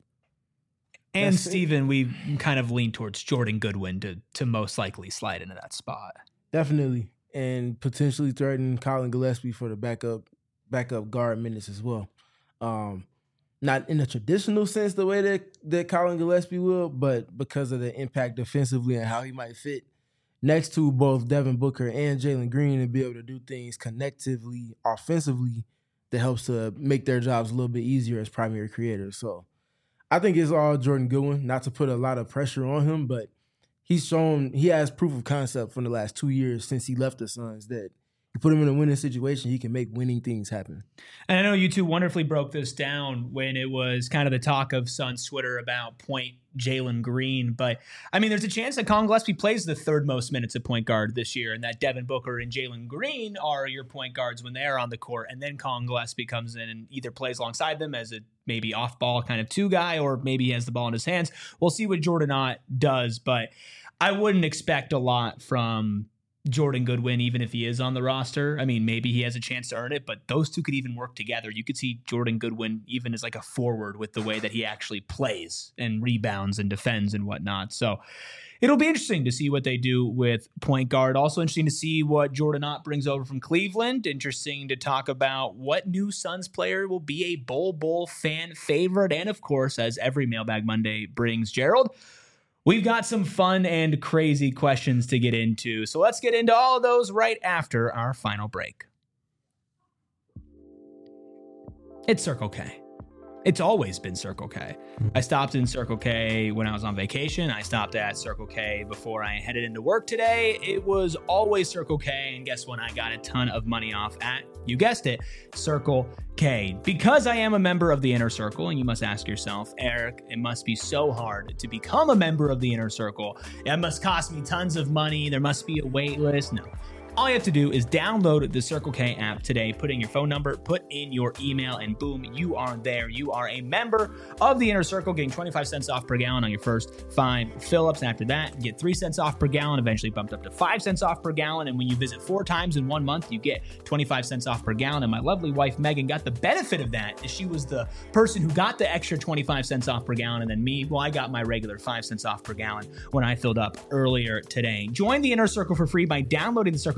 And That's it. Steven, we kind of lean towards Jordan Goodwin to to most likely slide into that spot. Definitely. And potentially threaten Colin Gillespie for the backup backup guard minutes as well. Um, not in a traditional sense the way that, that Colin Gillespie will, but because of the impact defensively and how he might fit next to both Devin Booker and Jalen Green and be able to do things connectively, offensively, that helps to make their jobs a little bit easier as primary creators. So I think it's all Jordan Goodwin, not to put a lot of pressure on him, but he's shown, he has proof of concept from the last two years since he left the Suns that you put him in a winning situation, he can make winning things happen. And I know you two wonderfully broke this down when it was kind of the talk of Suns Twitter about point Jalen Green. But, I mean, there's a chance that Colin Gillespie plays the third most minutes at point guard this year and that Devin Booker and Jalen Green are your point guards when they're on the court. And then Colin Gillespie comes in and either plays alongside them as a maybe off-ball kind of two guy or maybe he has the ball in his hands. We'll see what Jordan Ott does. But I wouldn't expect a lot from Jordan Goodwin, even if he is on the roster. I mean, maybe he has a chance to earn it, but those two could even work together. You could see Jordan Goodwin even as like a forward with the way that he actually plays and rebounds and defends and whatnot. So it'll be interesting to see what they do with point guard. Also interesting to see what Jordan Ott brings over from Cleveland. Interesting to talk about what new Suns player will be a Bol Bol fan favorite. And of course, as every Mailbag Monday brings, Gerald, we've got some fun and crazy questions to get into. So let's get into all of those right after our final break. It's Circle K. It's always been Circle K. I stopped in Circle K when I was on vacation. I stopped at Circle K before I headed into work today. It was always Circle K, and guess what? I got a ton of money off at, you guessed it, Circle K. Because I am a member of the Inner Circle, and you must ask yourself, Eric, it must be so hard to become a member of the Inner Circle. It must cost me tons of money. There must be a wait list. No. All you have to do is download the Circle K app today, put in your phone number, put in your email, and boom, you are there. You are a member of the Inner Circle, getting twenty-five cents off per gallon on your first five fill-ups. And after that, you get three cents off per gallon, eventually bumped up to five cents off per gallon. And when you visit four times in one month, you get twenty-five cents off per gallon. And my lovely wife, Megan, got the benefit of that. She was the person who got the extra twenty-five cents off per gallon. And then me, well, I got my regular five cents off per gallon when I filled up earlier today. Join the Inner Circle for free by downloading the Circle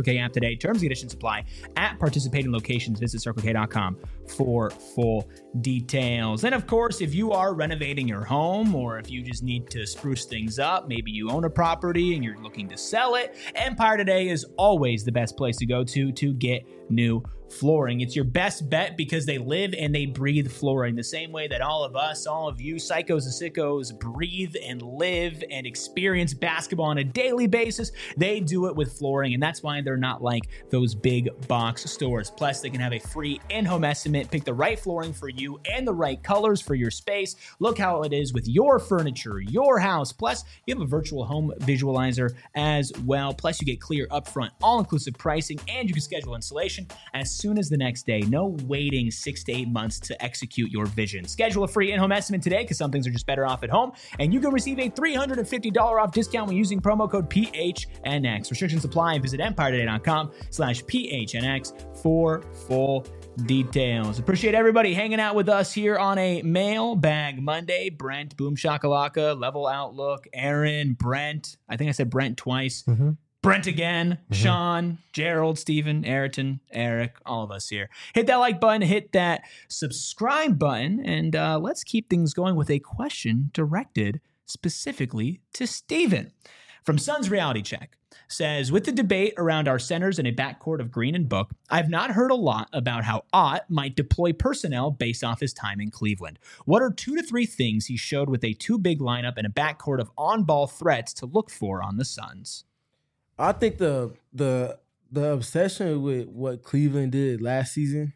Circle K app today. Terms and conditions apply at participating locations. Visit circle k dot com for full details. And of course, if you are renovating your home or if you just need to spruce things up, maybe you own a property and you're looking to sell it, Empire Today is always the best place to go to to get new flooring. It's your best bet because they live and they breathe flooring the same way that all of us, all of you psychos and sickos breathe and live and experience basketball on a daily basis. They do it with flooring, and that's why they're not like those big box stores. Plus, they can have a free in-home estimate, pick the right flooring for you and the right colors for your space. Look how it is with your furniture, your house. Plus, you have a virtual home visualizer as well. Plus, you get clear upfront, all-inclusive pricing, and you can schedule installation as soon as the next day. No waiting six to eight months to execute your vision. Schedule a free in-home estimate today because some things are just better off at home. And you can receive a three hundred fifty dollars off discount when using promo code P H N X. Restrictions apply. Visit empire today dot com slash P H N X for full details. Appreciate everybody hanging out with us here on a Mailbag Monday. Brent, Boom Shakalaka, Level Outlook, Aaron, Brent. I think I said Brent twice. Mm-hmm. Brent again, mm-hmm. Sean, Gerald, Steven, Ayrton, Eric, all of us here. Hit that like button, hit that subscribe button, and uh, let's keep things going with a question directed specifically to Steven. From Suns Reality Check, says, with the debate around our centers in a backcourt of Green and Book, I've not heard a lot about how Ott might deploy personnel based off his time in Cleveland. What are two to three things he showed with a two-big lineup and a backcourt of on-ball threats to look for on the Suns? I think the the the obsession with what Cleveland did last season,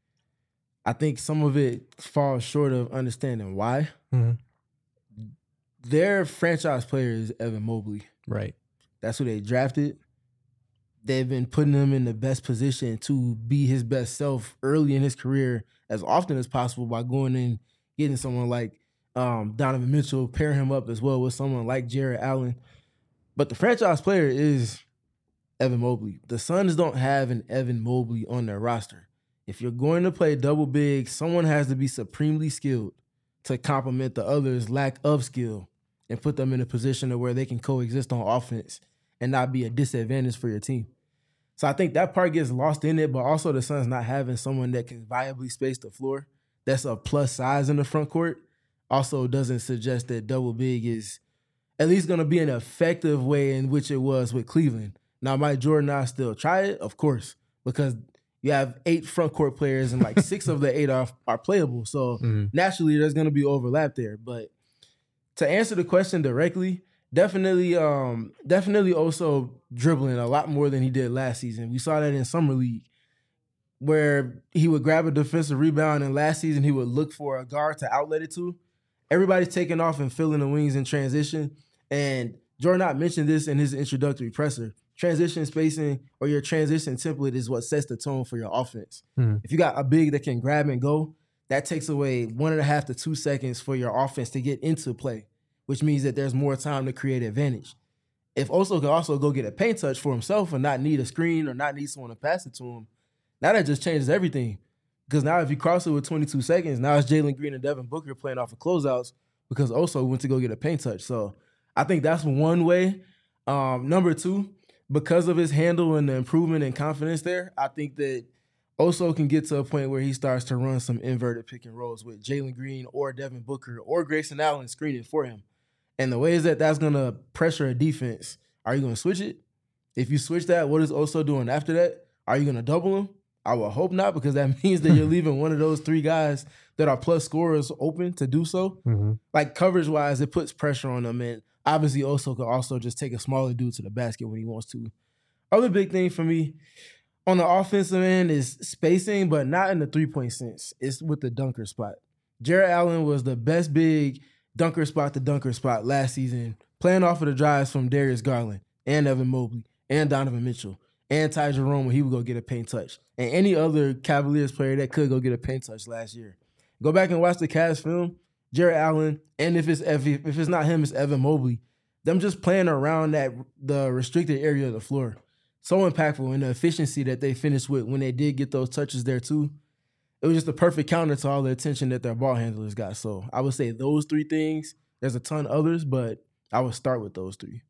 I think some of it falls short of understanding why. Mm-hmm. Their franchise player is Evan Mobley. Right. That's who they drafted. They've been putting him in the best position to be his best self early in his career as often as possible by going and getting someone like um, Donovan Mitchell, pairing him up as well with someone like Jarrett Allen. But the franchise player is Evan Mobley. The Suns don't have an Evan Mobley on their roster. If you're going to play double big, someone has to be supremely skilled to complement the other's lack of skill and put them in a position where they can coexist on offense and not be a disadvantage for your team. So I think that part gets lost in it, but also the Suns not having someone that can viably space the floor that's a plus size in the front court also doesn't suggest that double big is at least going to be an effective way in which it was with Cleveland. Now, might Jordan I still try it? Of course, because you have eight front court players and like six of the eight are, are playable. So mm-hmm. naturally, there's going to be overlap there. But to answer the question directly, definitely, um, definitely also dribbling a lot more than he did last season. We saw that in Summer League where he would grab a defensive rebound, and last season he would look for a guard to outlet it to. Everybody's taking off and filling the wings in transition. And Jordan Ott mentioned this in his introductory presser. Transition spacing or your transition template is what sets the tone for your offense. Mm-hmm. If you got a big that can grab and go, that takes away one and a half to two seconds for your offense to get into play, which means that there's more time to create advantage. If Oso can also go get a paint touch for himself and not need a screen or not need someone to pass it to him, now that just changes everything. Because now if you cross it with twenty-two seconds, now it's Jalen Green and Devin Booker playing off of closeouts because Oso went to go get a paint touch. So I think that's one way. Um, number two, because of his handle and the improvement in confidence there, I think that Oso can get to a point where he starts to run some inverted pick and rolls with Jalen Green or Devin Booker or Grayson Allen screening for him. And the ways that that's going to pressure a defense, are you going to switch it? If you switch that, what is Oso doing after that? Are you going to double him? I would hope not, because that means that you're leaving one of those three guys that are plus scorers open to do so. Mm-hmm. Like coverage-wise, it puts pressure on them. And obviously, Oso could also just take a smaller dude to the basket when he wants to. Other big thing for me on the offensive end is spacing, but not in the three-point sense. It's with the dunker spot. Jarrett Allen was the best big dunker spot to dunker spot last season, playing off of the drives from Darius Garland and Evan Mobley and Donovan Mitchell and Ty Jerome when he would go get a paint touch, and any other Cavaliers player that could go get a paint touch last year. Go back and watch the Cavs film. Jarrett Allen, and if it's if it's not him, it's Evan Mobley. Them just playing around that the restricted area of the floor. So impactful in the efficiency that they finished with when they did get those touches there too. It was just a perfect counter to all the attention that their ball handlers got. So I would say those three things. There's a ton others, but I would start with those three.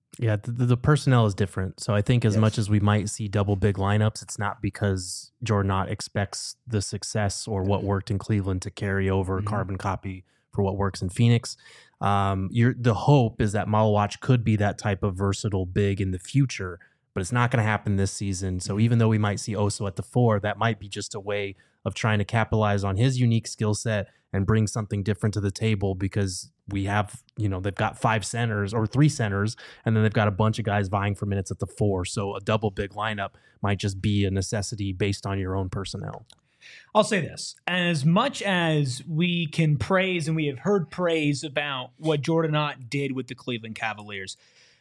Yeah, the, the personnel is different. So I think as Yes. much as we might see double big lineups, it's not because Jordan Knott expects the success or what worked in Cleveland to carry over, Mhm. carbon copy for what works in Phoenix. Um, you're, the hope is that Malawach could be that type of versatile big in the future, but it's not going to happen this season. So even though we might see Oso at the four, that might be just a way of trying to capitalize on his unique skill set and bring something different to the table, because we have, you know, they've got five centers or three centers, and then they've got a bunch of guys vying for minutes at the four. So a double big lineup might just be a necessity based on your own personnel. I'll say this. As much as we can praise, and we have heard praise about what Jordan Knott did with the Cleveland Cavaliers,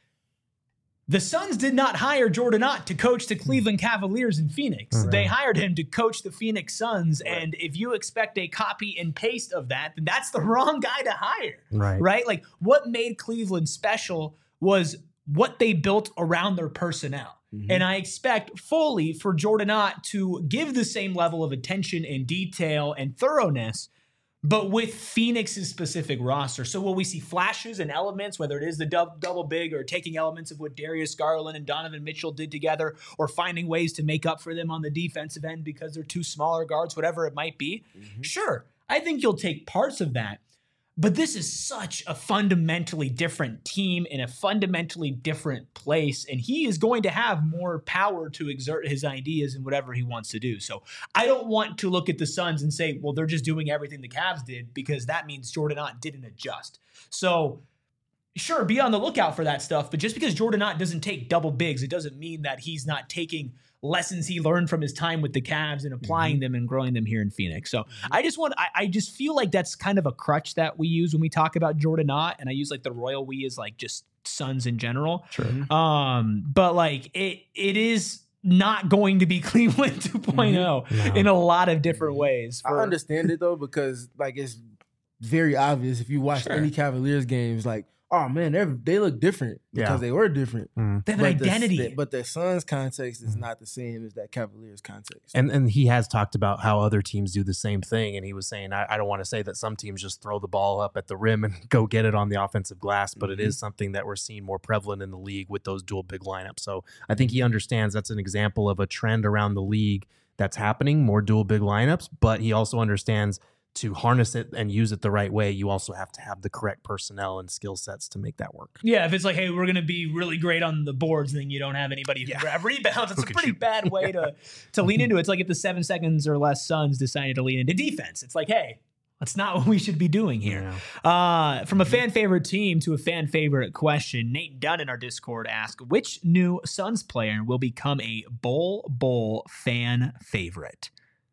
the Suns did not hire Jordan Knott to coach the Cleveland Cavaliers in Phoenix. Right. They hired him to coach the Phoenix Suns. Right. And if you expect a copy and paste of that, then that's the wrong guy to hire. Right. Right? Like, what made Cleveland special was what they built around their personnel. Mhm. And I expect fully for Jordan Knott to give the same level of attention and detail and thoroughness, but with Phoenix's specific roster. So will we see flashes and elements, whether it is the dub, double big or taking elements of what Darius Garland and Donovan Mitchell did together, or finding ways to make up for them on the defensive end because they're two smaller guards, whatever it might be? Mhm. Sure, I think you'll take parts of that. But this is such a fundamentally different team in a fundamentally different place, and he is going to have more power to exert his ideas and whatever he wants to do. So I don't want to look at the Suns and say, well, they're just doing everything the Cavs did, because that means Jordan Knott didn't adjust. So sure, be on the lookout for that stuff, but just because Jordan Knott doesn't take double bigs, it doesn't mean that he's not taking lessons he learned from his time with the Cavs and applying Mm-hmm. them and growing them here in Phoenix. So I just want, I, I just feel like that's kind of a crutch that we use when we talk about Jordan Knott, and I use like the royal we as like just Suns in general. Sure. Um, but like it, it is not going to be Cleveland two point oh No. in a lot of different ways. I for- understand it though, because like it's very obvious if you watch Sure. any Cavaliers games, like, oh man, they they look different because Yeah. they were different. Mm. They have an But the- identity. the- but the Suns context is not the same as that Cavaliers context. And and he has talked about how other teams do the same thing. And he was saying, I, I don't want to say that some teams just throw the ball up at the rim and go get it on the offensive glass, but it Mhm. is something that we're seeing more prevalent in the league with those dual big lineups. So I think he understands that's an example of a trend around the league that's happening, more dual big lineups, but he also understands to harness it and use it the right way, you also have to have the correct personnel and skill sets to make that work. Yeah, if it's like, hey, we're going to be really great on the boards, and then you don't have anybody who Yeah. grab rebounds, it's Who a can pretty shoot. bad way to to lean into it. It's like if the seven seconds or less Suns decided to lean into defense. It's like, hey, that's not what we should be doing here. Yeah. Uh, from a fan favorite team to a fan favorite question, Nate Dunn in our Discord asked, which new Suns player will become a Bol Bol fan favorite?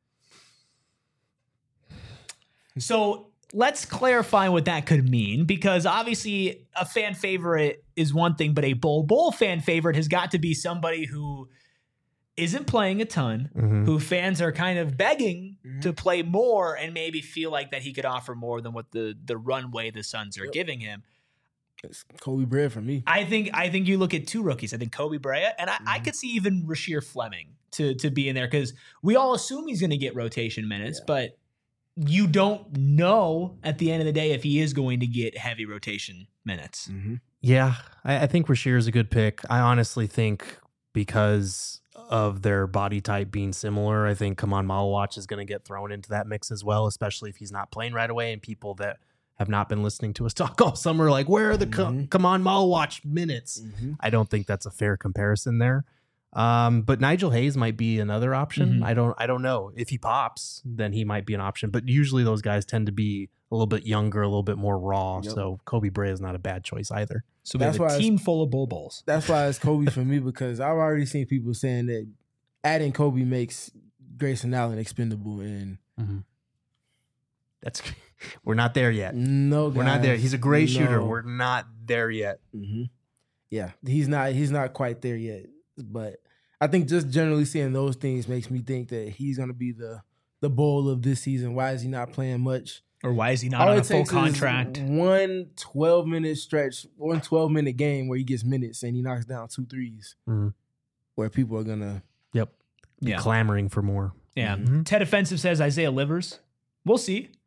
So let's clarify what that could mean, because obviously a fan favorite is one thing, but a Bol Bol fan favorite has got to be somebody who isn't playing a ton, Mhm. who fans are kind of begging Mhm. to play more and maybe feel like that he could offer more than what the the runway the Suns are Yep. giving him. It's Kobe Bryant for me. I think I think you look at two rookies. I think Kobe Bryant, and I, I Mhm. could see even Rasheer Fleming to to be in there, because we all assume he's going to get rotation minutes, Yeah. but you don't know at the end of the day if he is going to get heavy rotation minutes. Mm-hmm. Yeah, I, I think Rasheer is a good pick. I honestly think because of their body type being similar, I think Kaman Malawach is going to get thrown into that mix as well, especially if he's not playing right away. And people that have not been listening to us talk all summer, like, where are the Mhm. Ka- Kaman Malawach minutes? Mm-hmm. I don't think that's a fair comparison there. Um, but Nigel Hayes might be another option. Mhm. I don't, I don't know if he pops, then he might be an option. But usually those guys tend to be a little bit younger, a little bit more raw. Yep. So Kobe Bryant is not a bad choice either. So we That's have why a it's- team full of Bol Bols. That's why it's Kobe for me, because I've already seen people saying that adding Kobe makes Grayson Allen expendable, and That's we're not there yet. no, We're not there. guys, He's a great shooter. no. We're not there yet. Mm-hmm. Yeah, he's not. He's not quite there yet. But I think just generally seeing those things makes me think that he's going to be the the Bull of this season. Why is he not playing much? Or why is he not All on it a full takes is contract? One twelve minute stretch, one twelve minute game where he gets minutes and he knocks down two threes, Mhm. where people are gonna. Yep. Yeah. Clamoring for more. Yeah. Mhm. Ted Offensive says Isaiah Livers. We'll see.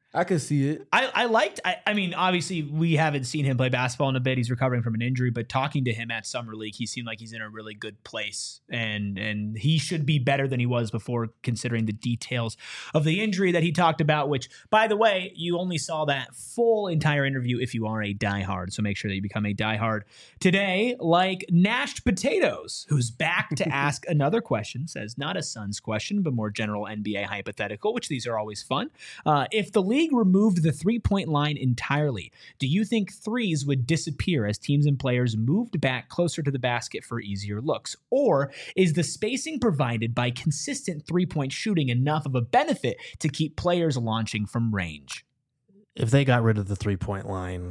I can see it. I, I liked, I, I mean, obviously we haven't seen him play basketball in a bit. He's recovering from an injury, but talking to him at Summer League, he seemed like he's in a really good place, and and he should be better than he was before, considering the details of the injury that he talked about, which, by the way, you only saw that full entire interview if you are a diehard. So make sure that you become a diehard today, like Nashed Potatoes, who's back to ask another question, says not a Suns question, but more general N B A hypothetical, which these are always fun. Uh, if the league removed the three-point line entirely, do you think threes would disappear as teams and players moved back closer to the basket for easier looks? Or is the spacing provided by consistent three-point shooting enough of a benefit to keep players launching from range? If they got rid of the three-point line,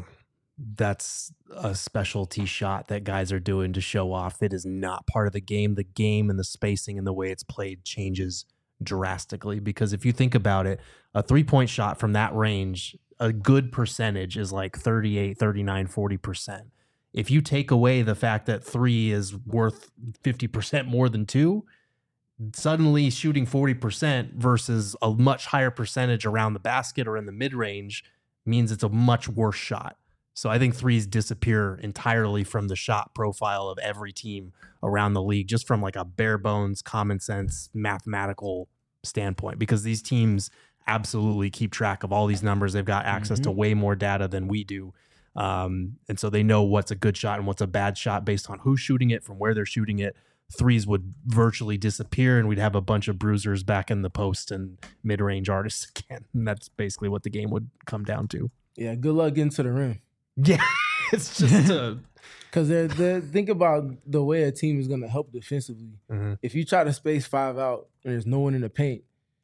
that's a specialty shot that guys are doing to show off. It is not part of the game. The game and the spacing and the way it's played changes drastically, because if you think about it, a three-point shot from that range, a good percentage is like thirty-eight, thirty-nine, forty percent. If you take away the fact that three is worth fifty percent more than two, suddenly shooting forty percent versus a much higher percentage around the basket or in the mid-range means it's a much worse shot. So I think threes disappear entirely from the shot profile of every team around the league, just from like a bare bones, common sense, mathematical standpoint, because these teams absolutely keep track of all these numbers. They've got access mm-hmm. to way more data than we do. Um, and so they know what's a good shot and what's a bad shot based on who's shooting it, from where they're shooting it. Threes would virtually disappear, and we'd have a bunch of bruisers back in the post and mid-range artists again. And that's basically what the game would come down to. Yeah, good luck getting to the rim. Yeah, it's just a... Because they're, they're, think about the way a team is going to help defensively. Mm-hmm. If you try to space five out and there's no one in the paint,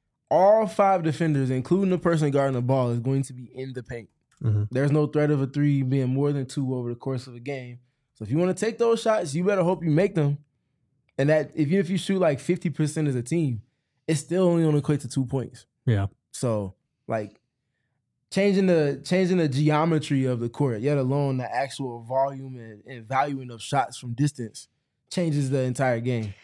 all five defenders, including the person guarding the ball, is going to be in the paint. Mm-hmm. There's no threat of a three being more than two over the course of a game. So if you want to take those shots, you better hope you make them. And that even if you shoot like fifty percent as a team, it's still only going to equate to two points. Yeah. So, like, Changing the changing the geometry of the court, yet alone the actual volume and, and valuing of shots from distance, changes the entire game.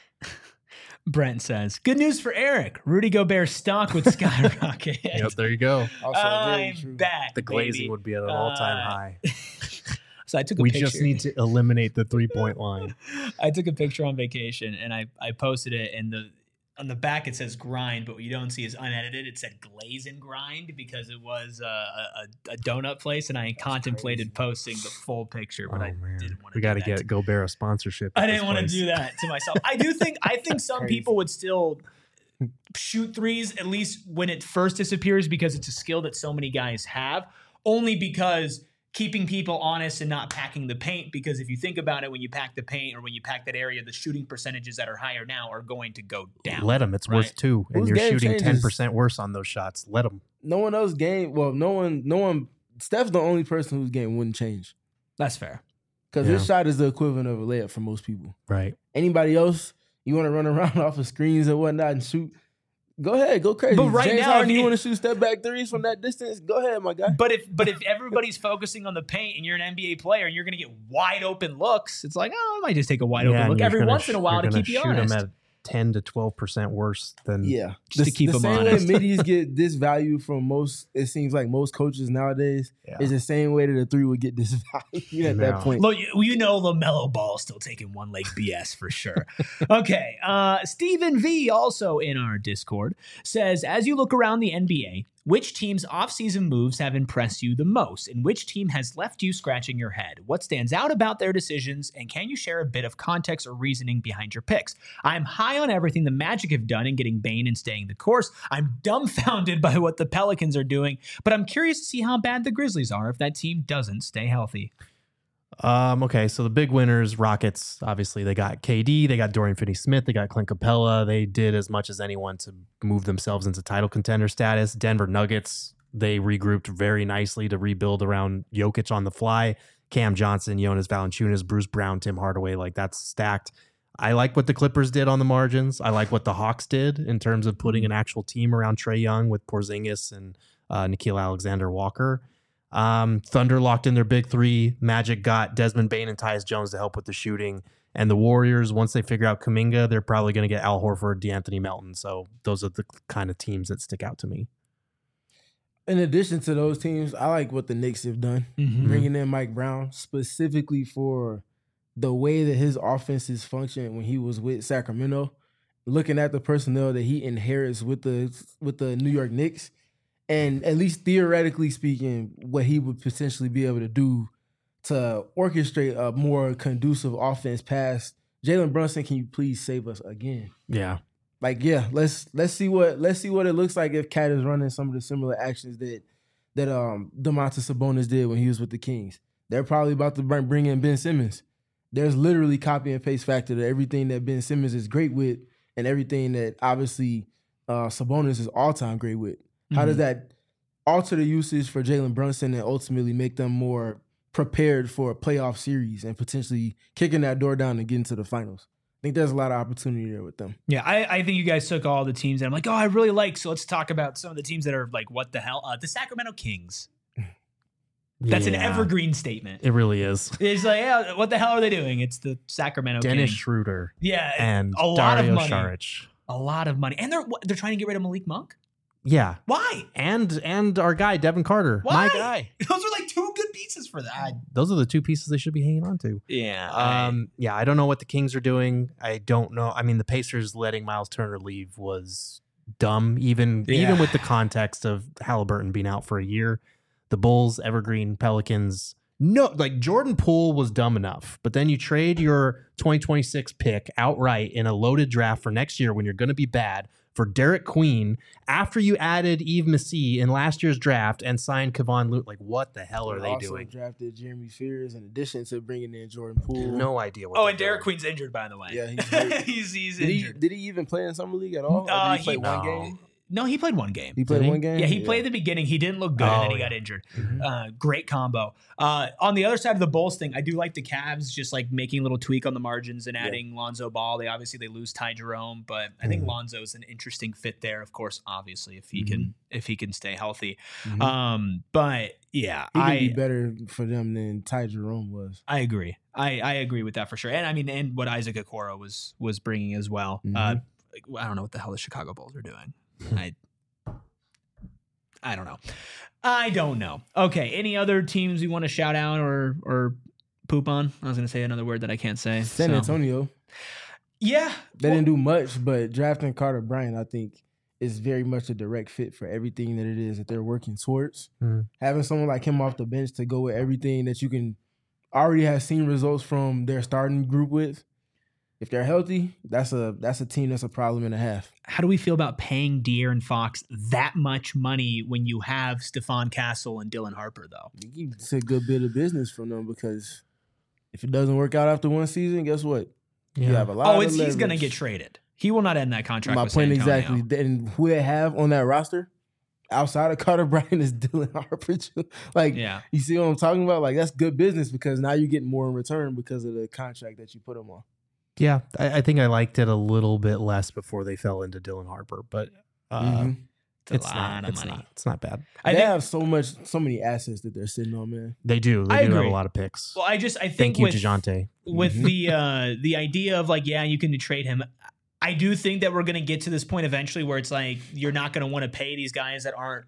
Brent says, good news for Eric. Rudy Gobert's stock would skyrocket. Yep, there you go. Also, I'm true. back. The glazing baby. would be at an all-time uh, high. So I took a we picture. just need to eliminate the three-point line. I took a picture on vacation, and I, I posted it, and the on the back it says grind, but what you don't see is unedited. It said glaze and grind because it was uh, a, a donut place, and I That's contemplated crazy. posting the full picture, but oh, I man. didn't want to. We got to get Gobert a sponsorship. I didn't want to do that to myself. I do think I think some crazy. people would still shoot threes, at least when it first disappears, because it's a skill that so many guys have, only because keeping people honest and not packing the paint, because if you think about it, when you pack the paint or when you pack that area, the shooting percentages that are higher now are going to go down. Let them. It's right? worth two, and Whose you're game shooting changes? ten percent worse on those shots. Let them. No one else game. Well, no one. No one. Steph's the only person whose game wouldn't change That's fair. because Yeah. his shot is the equivalent of a layup for most people. Right. Anybody else, you want to run around off of screens and whatnot and shoot? Go ahead, go crazy. But right James now, Harden, if you you- want to shoot step back threes from that distance? Go ahead, my guy. But if but if everybody's focusing on the paint and you're an N B A player and you're going to get wide open looks, it's like, oh, I might just take a wide Yeah, open and look you're every gonna once sh- in a while you're to gonna keep you shoot 'em honest. at ten to twelve percent worse than Yeah, Just to keep the them same honest. way middies get disvalued from most. It seems like most coaches nowadays Yeah. is the same way that a three would get disvalued at that No. point. Look, you, you know LaMelo Ball still taking one leg B S for sure. Okay. Uh, Stephen V, also in our Discord, says, as you look around the N B A, which team's offseason moves have impressed you the most, and which team has left you scratching your head? What stands out about their decisions, and can you share a bit of context or reasoning behind your picks? I'm high on everything the Magic have done in getting Bane and staying the course. I'm dumbfounded by what the Pelicans are doing, but I'm curious to see how bad the Grizzlies are if that team doesn't stay healthy. Um, okay, so the big winners, Rockets, obviously they got K D, they got Dorian Finney-Smith, they got Clint Capella. They did as much as anyone to move themselves into title contender status. Denver Nuggets, they regrouped very nicely to rebuild around Jokic on the fly. Cam Johnson, Jonas Valanciunas, Bruce Brown, Tim Hardaway, like that's stacked. I like what the Clippers did on the margins. I like what the Hawks did in terms of putting an actual team around Trae Young with Porzingis and uh, Nickeil Alexander-Walker. Um, Thunder locked in their big three. Magic got Desmond Bane and Tyus Jones to help with the shooting. And the Warriors, once they figure out Kuminga, they're probably going to get Al Horford, DeAnthony Melton. So those are the kind of teams that stick out to me. In addition to those teams, I like what the Knicks have done, Mhm. bringing in Mike Brown specifically for the way that his offenses functioned when he was with Sacramento. Looking at the personnel that he inherits with the with the New York Knicks, and at least theoretically speaking, what he would potentially be able to do to orchestrate a more conducive offense past Jalen Brunson. Can you please save us again? Yeah. Like, yeah, let's let's see what let's see what it looks like if Cat is running some of the similar actions that that um Domantas Sabonis did when he was with the Kings. They're probably about to bring, bring in Ben Simmons. There's literally copy and paste factor to everything that Ben Simmons is great with and everything that obviously uh, Sabonis is all-time great with. How does that alter the usage for Jalen Brunson and ultimately make them more prepared for a playoff series and potentially kicking that door down and getting to the finals? I think there's a lot of opportunity there with them. Yeah, I, I think you guys took all the teams that I'm like, oh, I really like. So let's talk about some of the teams that are like, what the hell? Uh, the Sacramento Kings. That's an Yeah. evergreen statement. It really is. It's like, yeah, what the hell are they doing? It's the Sacramento Dennis Kings. Schroeder Yeah, and a lot Dario of money. Saric. A lot of money, and they're they're trying to get rid of Malik Monk. Yeah. Why? And and our guy, Devin Carter. Why? My guy. Those are like two good pieces for that. Those are the two pieces they should be hanging on to. Yeah. Um, yeah, I don't know what the Kings are doing. I don't know. I mean, the Pacers letting Miles Turner leave was dumb, even Yeah. even with the context of Halliburton being out for a year. The Bulls, Evergreen, Pelicans. No, like Jordan Poole was dumb enough, but then you trade your twenty twenty-six pick outright in a loaded draft for next year when you're going to be bad for Derek Queen after you added Yves Massey in last year's draft and signed Kevon Looney. Like, what the hell are They they also doing? drafted Jeremy Fears in addition to bringing in Jordan Poole. No idea what oh, they're and Derek doing. Queen's injured, by the way. Yeah, he's hurt. he's he's Did he, injured. did he even play in Summer League at all? Or Uh, did he play he- one no. game? No, he played one game. He played Did he? one game? Yeah, he played at the beginning. He didn't look good, and then Oh, he yeah. got injured. Mhm. Uh, great combo. Uh, on the other side of the Bulls thing, I do like the Cavs just like making a little tweak on the margins and adding Lonzo Ball. They obviously they lose Ty Jerome, but I think Mhm. Lonzo's an interesting fit there. Of course, obviously if he Mhm. can if he can stay healthy. Mhm. Um, but yeah, He can I be better for them than Ty Jerome was. I agree. I, I agree with that for sure. And I mean, and what Isaac Okoro was was bringing as well. Mhm. Uh, I don't know what the hell the Chicago Bulls are doing. I I don't know. I don't know. Okay. Any other teams you want to shout out or or poop on? I was going to say another word that I can't say. San so. Antonio, Yeah. they Well, didn't do much, but drafting Carter Bryant, I think, is very much a direct fit for everything that it is that they're working towards. Mhm. Having someone like him off the bench to go with everything that you can already have seen results from their starting group with. If they're healthy, that's a that's a team that's a problem and a half. how do we feel about paying De'Aaron Fox that much money when you have Stephon Castle and Dylan Harper, though? It's a good bit of business from them because if it doesn't work out after one season, guess what? You have a lot Oh, of it's he's going to leverage. get traded. He will not end that contract. My with point San Antonio. exactly. And who they have on that roster outside of Carter Bryant is Dylan Harper. Like, Yeah. you see what I'm talking about? Like, that's good business because now you get more in return because of the contract that you put him on. Yeah, I, I think I liked it a little bit less before they fell into Dylan Harper, but uh, Mhm. It's a it's lot not. of It's money. not. It's not bad. I they think, have so much, so many assets that they're sitting on, man. They do. They I do have agree. a lot of picks. well, I just I think Thank you, with, DeJounte. with Mhm. the uh the idea of like, yeah, you can trade him. I do think that we're going to get to this point eventually where it's like you're not going to want to pay these guys that aren't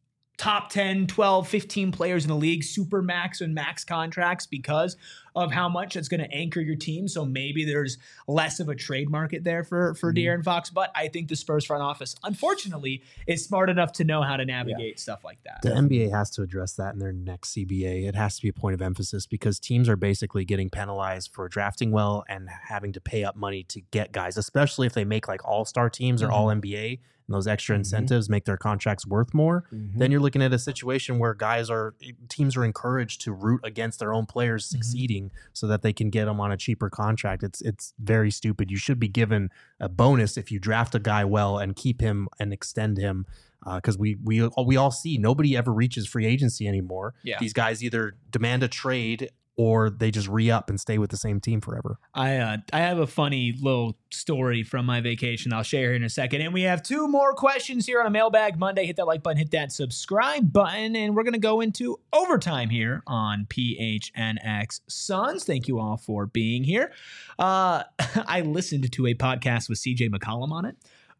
top ten, twelve, fifteen players in the league, super max and max contracts because of how much it's going to anchor your team. So maybe there's less of a trade market there for, for Mhm. De'Aaron Fox. But I think the Spurs front office, unfortunately, is smart enough to know how to navigate stuff like that. The N B A has to address that in their next C B A. It has to be a point of emphasis because teams are basically getting penalized for drafting well and having to pay up money to get guys, especially if they make like all-star teams or Mhm. all N B A. And those extra Mhm. incentives make their contracts worth more. Mhm. Then you're looking at a situation where guys are teams are encouraged to root against their own players Mhm. succeeding so that they can get them on a cheaper contract. It's it's very stupid. You should be given a bonus if you draft a guy well and keep him and extend him. Because we we we all see nobody ever reaches free agency anymore. Yeah. These guys either demand a trade or they just re-up and stay with the same team forever. I uh, I have a funny little story from my vacation I'll share here in a second. And we have two more questions here on a Mailbag Monday. Hit that like button, hit that subscribe button, and we're going to go into overtime here on P H N X Suns. Thank you all for being here. Uh, I listened to a podcast with C J McCollum on it.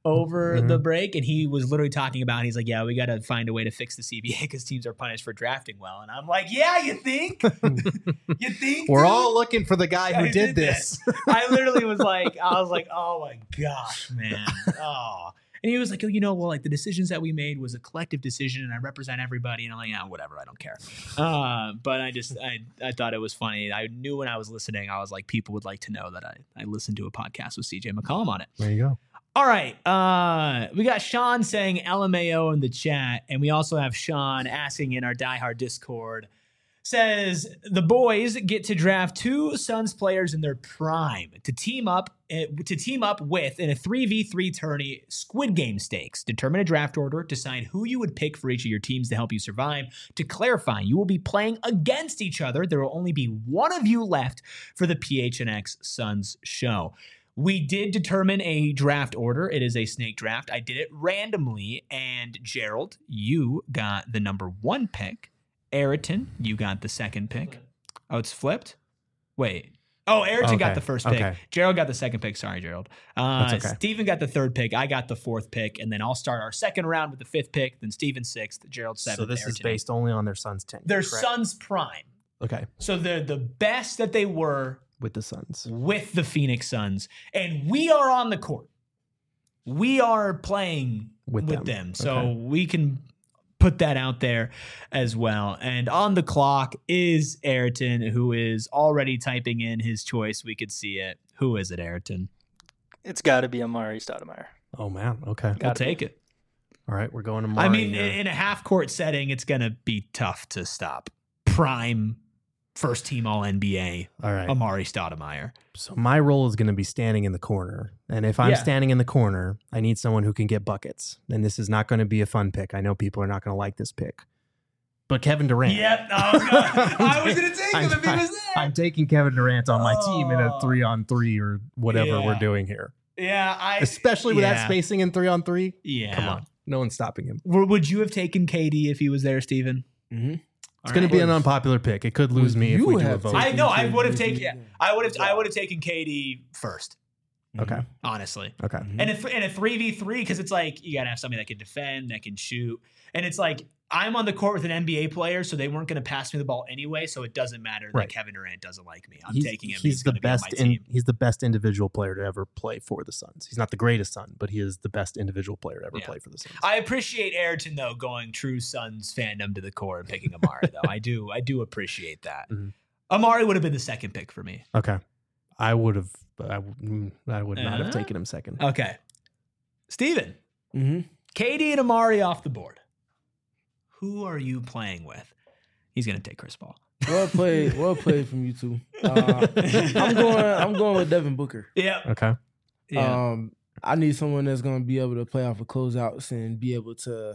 over Mhm. the break, and he was literally talking about, he's like, yeah, we got to find a way to fix the C B A because teams are punished for drafting well. And I'm like, yeah, you think? You think? We're dude? all looking for the guy who I did, did this. I literally was like, I was like, oh my gosh, man. Oh. And he was like, oh, you know, well, like the decisions that we made was a collective decision and I represent everybody. And I'm like, yeah, whatever. I don't care. Uh, but I just, I, I thought it was funny. I knew when I was listening, I was like, people would like to know that I, I listened to a podcast with C J McCollum on it. There you go. All right. Uh, we got Sean saying L M A O in the chat. And we also have Sean asking in our diehard Discord, says the boys get to draft two Suns players in their prime to team up uh, to team up with in a three v three tourney Squid Game stakes. Determine a draft order, decide who you would pick for each of your teams to help you survive. To clarify, you will be playing against each other. There will only be one of you left for the P H N X Suns show. We did determine a draft order. It is a snake draft. I did it randomly, and Gerald, you got the number one pick. Ayrton, you got the second pick. Oh, it's flipped? Wait. Oh, Ayrton Okay. got the first pick. Okay. Gerald got the second pick. Sorry, Gerald. Uh, That's okay. Steven got the third pick. I got the fourth pick. And then I'll start our second round with the fifth pick. Then Steven sixth. Gerald seventh. So this Ayrton is based only on their son's tenure. Their correct? son's prime. Okay. So they're the best that they were With the Suns. with the Phoenix Suns. And we are on the court. We are playing with, With them. them. So Okay. we can put that out there as well. And on the clock is Ayrton, who is already typing in his choice. We could see it. Who is it, Ayrton? It's got to be Amari Stoudemire. Oh, man. Okay. I'll Gotta take be. it. All right. We're going to I Mari mean, here. in a half court setting, it's going to be tough to stop. Prime first team All N B A, All right. Amari Stoudemire. So my role is going to be standing in the corner. And if I'm Yeah. standing in the corner, I need someone who can get buckets. And this is not going to be a fun pick. I know people are not going to like this pick. But Kevin Durant. Yep. I was gonna, I was gonna take him I'm- if he was there. I'm taking Kevin Durant on my team in a Oh. three on three or whatever Yeah. we're doing here. yeah, I Especially with yeah. that spacing in three on three. Yeah. Come on. No one's stopping him. W- Would you have taken K D if he was there, Steven? Mm-hmm. It's going to be an unpopular pick. It could lose Would me if you we do a have vote. taken- I know. I would have K D. taken. Yeah, I would have. I would have taken K D first. Okay. Honestly, Okay. and a th- and a three v three because it's like you gotta have somebody that can defend, that can shoot, and it's like I'm on the court with an N B A player, so they weren't going to pass me the ball anyway, so it doesn't matter that Right. Kevin Durant doesn't like me. I'm he's, taking him. He's, the gonna be on best. my In, team. he's the best individual player to ever play for the Suns. He's not the greatest Sun, but he is the best individual player to ever Yeah. play for the Suns. I appreciate Ayrton though going true Suns fandom to the core and picking Amari though. I do. I do appreciate that. Mhm. Amari would have been the second pick for me. okay. I would have. I, would- mm, I would not Uh-huh. have taken him second. Okay, Steven. Mm-hmm. K D and Amari off the board. Who are you playing with? He's gonna take Chris Paul. Well played. Well played from you two. Uh, I'm going. I'm going with Devin Booker. Yeah. Okay. Yeah. Um, I need someone that's going to be able to play off of closeouts and be able to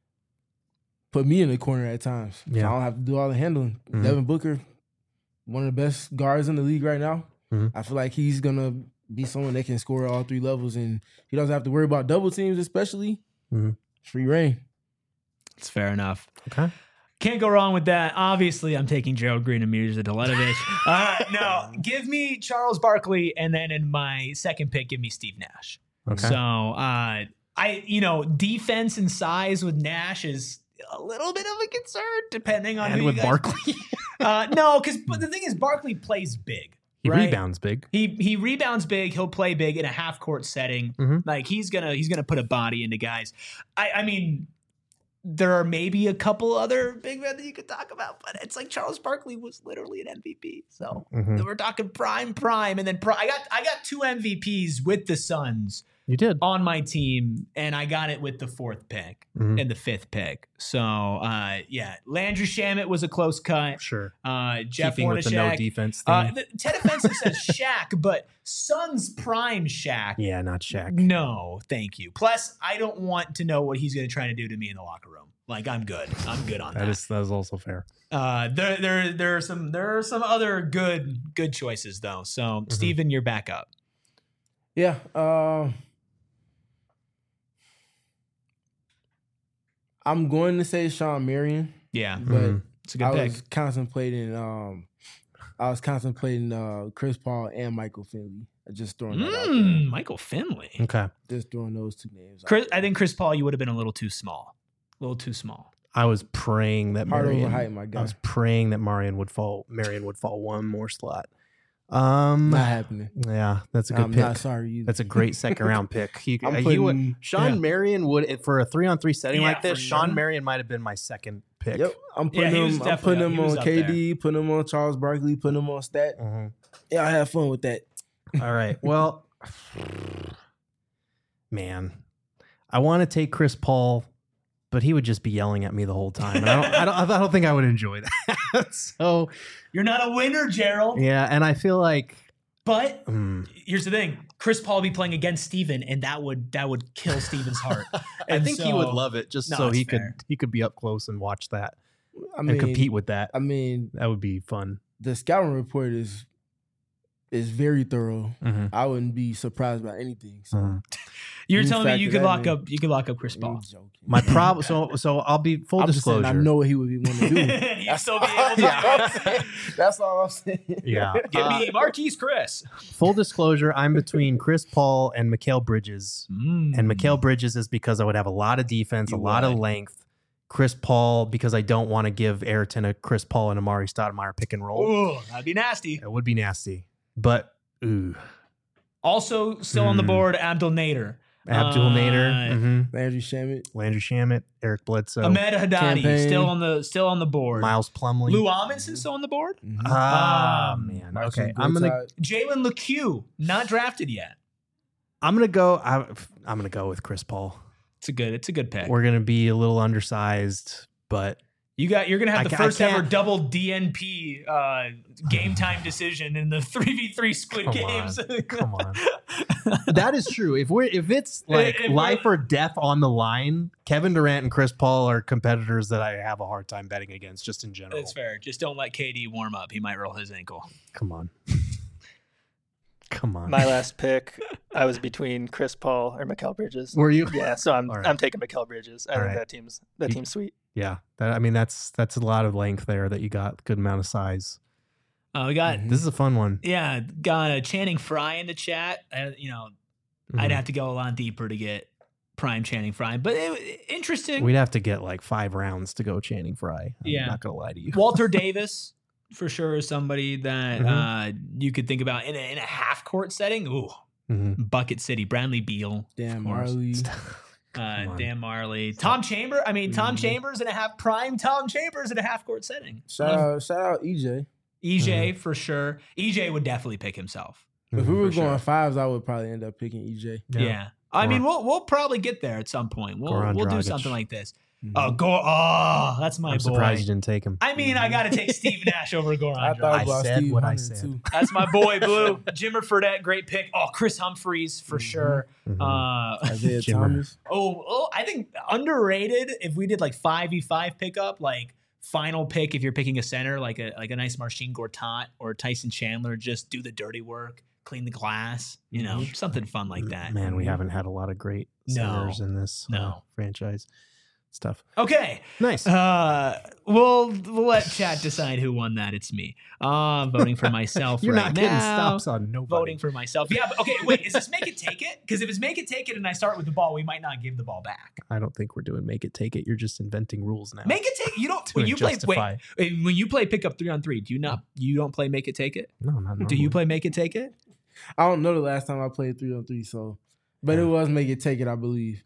put me in the corner at times. So Yeah. I don't have to do all the handling. Mhm. Devin Booker, one of the best guards in the league right now. Mhm. I feel like he's going to be someone that can score all three levels, and he doesn't have to worry about double teams, especially. Mhm. Free reign. It's fair enough. Okay. Can't go wrong with that. Obviously, I'm taking Gerald Green and Mirza Deletovich. uh, no, give me Charles Barkley, and then in my second pick, give me Steve Nash. Okay. So, uh, I, you know, defense and size with Nash is a little bit of a concern, depending on and who with you guys. Barkley, Uh, no, because but the thing is, Barkley plays big. he right? rebounds big. He he rebounds big. He'll play big in a half court setting. Mhm. Like he's gonna he's gonna put a body into guys. I I mean, there are maybe a couple other big men that you could talk about, but it's like Charles Barkley was literally an M V P. So Mhm. we're talking prime, prime, and then pri- I got I got two M V Ps with the Suns You did. on my team, and I got it with the fourth pick Mhm. and the fifth pick. So uh, yeah, Landry Shamet was a close cut. Sure. Uh, Jeff Keeping with the no Hornacek. defense thing. Uh, the, Ted Offensive says Shaq, but Suns prime Shaq. yeah, not Shaq. No, thank you. Plus, I don't want to know what he's going to try to do to me in the locker room. Like, I'm good. I'm good on that. That is that is also fair. uh, there, there, there are some, there are some other good, good choices though. So, Mm-hmm. Steven, you're back up. Yeah. Um, I'm going to say Sean Marion, Yeah, but Mhm. it's a good I pick. was contemplating. Um, I was contemplating uh, Chris Paul and Michael Finley Just throwing that out Mm, there. Michael Finley. Okay. Just throwing those two names. out Chris, there. I think Chris Paul, you would have been a little too small. A little too small. I was praying that Hard Marion, overhyped, my guy. I was praying that Marion would fall. Marion would fall one more slot. Um, Not happening. yeah, that's a good I'm pick. not sorry either. That's a great second round pick. He, I'm uh, he putting- would, Sean yeah. Marion would if for a three on three setting Yeah, like this. for Sean sure. Marion might have been my second pick. Yep, I'm Yeah, putting he was him. I'm definitely putting up- him he was on up K D, putting him on Charles Barkley, putting him on Stat. Mhm. Yeah, I have fun with that. All right. Well, man, I want to take Chris Paul, but he would just be yelling at me the whole time. And I don't, I don't, I don't think I would enjoy that. So You're not a winner, Gerald. yeah, and I feel like But mm, here's the thing: Chris Paul would be playing against Steven, and that would that would kill Steven's heart. I And think he would so- love it just No, so it's he fair. could he could be up close and watch that I mean, and compete with that. I mean, That would be fun. the scouting report is is very thorough. Mhm. I wouldn't be surprised by anything. So Mhm. You're You telling me factor you could that lock in. up you could lock up Chris I'm Paul. joking. My problem. So so I'll be full I'm just saying, disclosure. I know what he would want to do. You still be able to That's all do I'm saying. That's all I'm saying. Yeah. Give Uh, me Marquise Chris. full disclosure, I'm between Chris Paul and Mikal Bridges. Mm. And Mikal Bridges is because I would have a lot of defense, You a lot of would. length. Chris Paul, because I don't want to give Ayrton a Chris Paul and Amari Stoudemire pick and roll. Ooh, that'd be nasty. It would be nasty. But, ooh. Also, still on the Hmm. board, Abdul Nader. Abdul Uh, Nader, mhm. Landry Shamet. Landry Shamet, Eric Bledsoe, Ahmed Haddadi Campaign. still on the still on the board. Miles Plumlee. Lou Amundsen still on the board. Mhm. Ah, Um, man. Marcin Okay. I'm going to Gortat. Jalen LeCue, not drafted yet. I'm gonna go I, I'm going to go with Chris Paul. It's a good. It's a good pick. We're going to be a little undersized, but You got. You're gonna have I the ca- I first ever can't- double D N P uh, game time decision in the three v three Squid Come Games. on. Come on. That is true. If we're if it's like If we're- life or death on the line, Kevin Durant and Chris Paul are competitors that I have a hard time betting against, just in general. That's fair. Just don't let K D warm up. He might roll his ankle. Come on, come on. My last pick, I was between Chris Paul or Mikal Bridges. Were you? Yeah, so I'm All right. I'm taking Mikal Bridges. I All think right. that team's that You- team's sweet. Yeah. That, I mean, that's that's a lot of length there that you got. Good amount of size. Uh, we got Mhm. This is a fun one. yeah, got a Channing Frye in the chat. Uh, you know, I'd Mhm. have to go a lot deeper to get prime Channing Frye, but it, interesting. We'd have to get like five rounds to go Channing Frye. I'm Yeah. not gonna lie to you. Walter Davis for sure is somebody that Mhm. uh, you could think about in a, in a half court setting. Ooh, Mhm. Bucket City, Bradley Beal, Dan of course. Marley. uh, on. Dan Marley, Tom Chamber. I mean, Tom Mhm. Chambers in a half prime. Tom Chambers in a half court setting. Shout out, shout out E J. E J for sure. E J would definitely pick himself. If we Mhm. were For going sure. fives, I would probably end up picking E J. Yeah. I mean, we'll we'll probably get there at some point. We'll Goran we'll do Dragic. something like this. Mhm. Oh, go! Oh, that's my I'm boy. surprised you didn't take him. I mean, I got to take Steve Nash over Goran I Dragic. thought I about said Steve what I Hunter, said. too. That's my boy, Blue. Jimmer Fredette, great pick. Oh, Chris Humphreys for Mhm. sure. Mhm. Uh, Isaiah Jimmer. Thomas. oh, oh, I think underrated. If we did like five v five pickup, like final pick, if you're picking a center, like a like a nice Marcin Gortat or Tyson Chandler, just do the dirty work, clean the glass, you know, Mhm. something fun like that. Man, we haven't had a lot of great No. centers in this uh, No. franchise stuff. Okay, Nice. uh, we'll, we'll let chat decide who won that. It's me. Uh, voting for myself You're right not getting now. stops on nobody. Voting for myself. Yeah, but okay, wait, is this make it take it? Because if it's make it take it and I start with the ball, we might not give the ball back. I don't think we're doing make it take it. You're just inventing rules now. Make it take you don't to when you play justify. wait when you play pick up three on three, do you not you don't play make it take it? No, not Do you normally. play make it take it? I don't know the last time I played three on three, so but it was make it take it, I believe.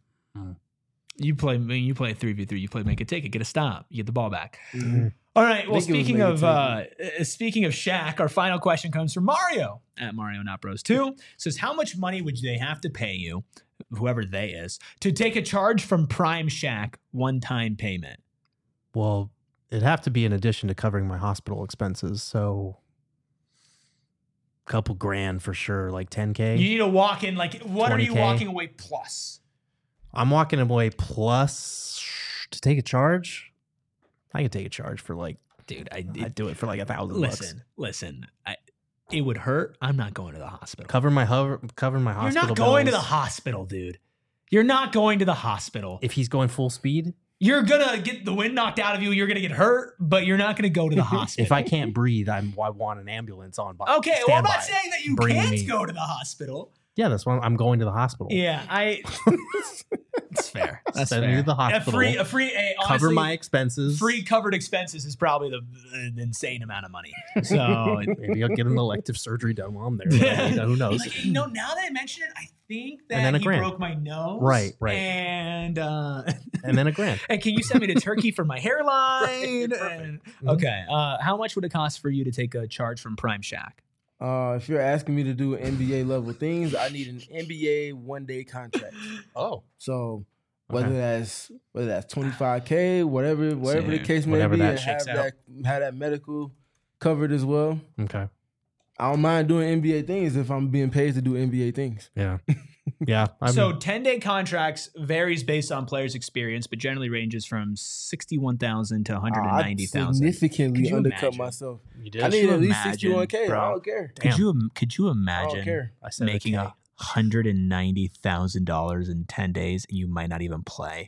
You play when you play three v three, you play make it take it, get a stop, you get the ball back. Mhm. All right. Well, I think it was speaking make it of uh, uh, speaking of Shaq, our final question comes from Mario at Mario Not Bros two. Says, how much money would they have to pay you, whoever they is, to take a charge from Prime Shaq one time payment? Well, it'd have to be in addition to covering my hospital expenses. So a couple grand for sure, like ten K. You need to walk in like what are you twenty K. walking away plus? I'm walking away plus to take a charge. I could take a charge for like, Dude, I I'd do it for like a thousand listen, bucks. listen. I it would hurt. I'm not going to the hospital. Cover my hover, cover my You're hospital not going to bills. the hospital, dude. You're not going to the hospital. If he's going full speed, You're gonna get the wind knocked out of you. You're gonna get hurt, but you're not gonna go to the hospital. If I can't breathe, I'm, I want an ambulance on. Okay, well, I'm not standby. saying that you Bring can't me. go to the hospital. Yeah, that's why I'm going to the hospital. Yeah, I. It's fair. That's Send fair. me to the A hospital. free, a free, a, Cover honestly, my expenses. free covered expenses is probably the an insane amount of money. So Maybe I'll get an elective surgery done while I'm there. You know, who knows? Like, you know, now that I mention it, I think that And then a he grant. broke my nose. Right, right. And uh, And then a grant. and can you send me to Turkey for my hairline? And- okay. Uh, how much would it cost for you to take a charge from Prime Shack? Uh, if you're asking me to do N B A level things, I need an N B A one day contract. Oh. So whether Okay. that's whether that's twenty-five K, whatever whatever the Sure. case may Whatever be, that and shakes have out. that have that medical covered as well. Okay. I don't mind doing N B A things if I'm being paid to do N B A things. Yeah. Yeah. I'm, So ten-day contracts varies based on players' experience, but generally ranges from sixty-one thousand to one hundred ninety I thousand. significantly Could you undercut imagine? myself. you did. I need you at least imagine, sixty-one K. bro? I don't care. Could Damn. you could you I don't imagine care. I said making okay. a hundred and ninety thousand dollars in ten days and you might not even play?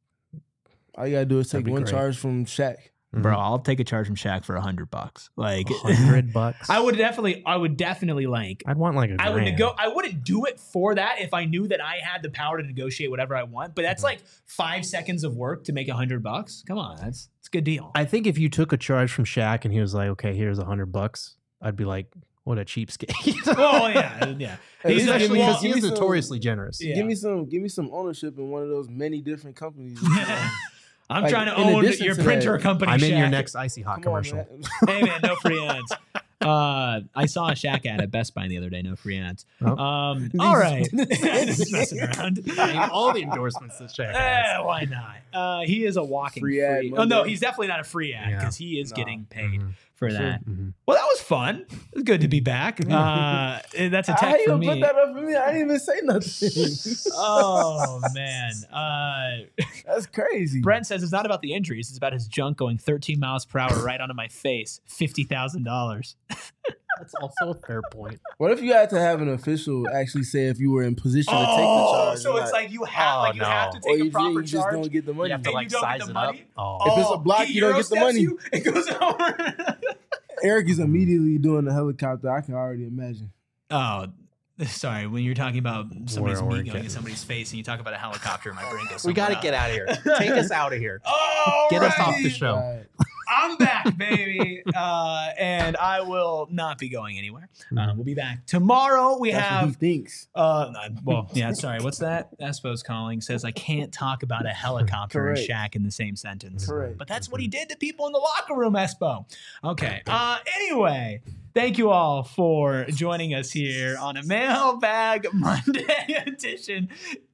All you gotta do is That'd take be one great. charge from Shaq. Mhm. Bro, I'll take a charge from Shaq for a hundred bucks. Like hundred bucks. I would definitely, I would definitely like. I'd want like a I would grand. nego- I wouldn't do it for that if I knew that I had the power to negotiate whatever I want. But that's like five seconds of work to make a hundred bucks. Come on, that's it's a good deal. I think if you took a charge from Shaq and he was like, "Okay, here's a hundred bucks," I'd be like, "What a cheapskate!" Oh yeah, yeah. Hey, He's give actually me- because give he's me some- notoriously generous. Yeah. Give me some give me some ownership in one of those many different companies. I'm Like, trying to in own addition your to printer that, company. I'm in your Shaq. next Icy Hot Come on, commercial. man. Hey man, no free ads. Uh, I saw a Shaq ad at Best Buy the other day. No free ads. Oh. Um, all right, just messing around. I mean, all the endorsements that Shaq has. Eh, why not? Uh, he is a walking free. Free ad oh no, Monday. he's definitely not a free ad Yeah. because he is No. getting paid Mhm. for Sure. that. Mhm. Well, that was fun. It was good to be back. Uh, that's a How tech you for gonna me. put that up for me? I didn't even say nothing. Oh man. Uh, That's crazy. Brent says it's not about the injuries; it's about his junk going thirteen miles per hour right onto my face. Fifty thousand dollars. That's also a fair point. What if you had to have an official actually say if you were in position to take the Oh, charge? so or it's not? like you have Oh, like you have to no. or take you, a proper you just charge. don't get the money. You have to And like you don't get size the it up. money? Oh, If it's a block, he you don't get the Euro money. steps You, it goes over. Eric is immediately doing the helicopter. I can already imagine. Oh, sorry. When you're talking about somebody's We're- we're meat going in getting- somebody's face, and you talk about a helicopter, my brain goes. we got to somewhere get else. out of here. Take us out of here. Oh, Get us off the show. Right. I'm back, baby, uh, and I will not be going anywhere. Uh, we'll be back tomorrow. We That's what he have. thinks. Uh, well, yeah, sorry. What's that? Espo's calling says I can't talk about a helicopter and Correct. Shaq in the same sentence. Correct. But that's what he did to people in the locker room, Espo. Okay. Uh, anyway, thank you all for joining us here on a Mailbag Monday edition.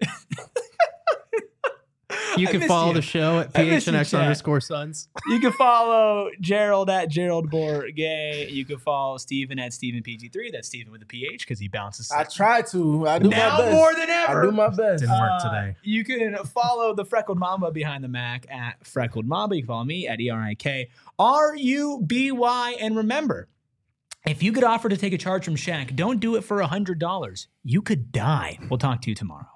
You I can missed follow you. the show at I missed you, PHNX chat. underscore Sons. You can follow Gerald at Gerald Bourget. You can follow Steven at Steven P G three. That's Steven with a P H because he bounces. I try to. I do now my best. more than ever. I do my best. Didn't work Uh, today. You can follow the Freckled Mamba behind the Mac at Freckled Mamba. You can follow me at E R I K R U B Y. And remember, if you get offered to take a charge from Shaq, don't do it for one hundred dollars. You could die. We'll talk to you tomorrow.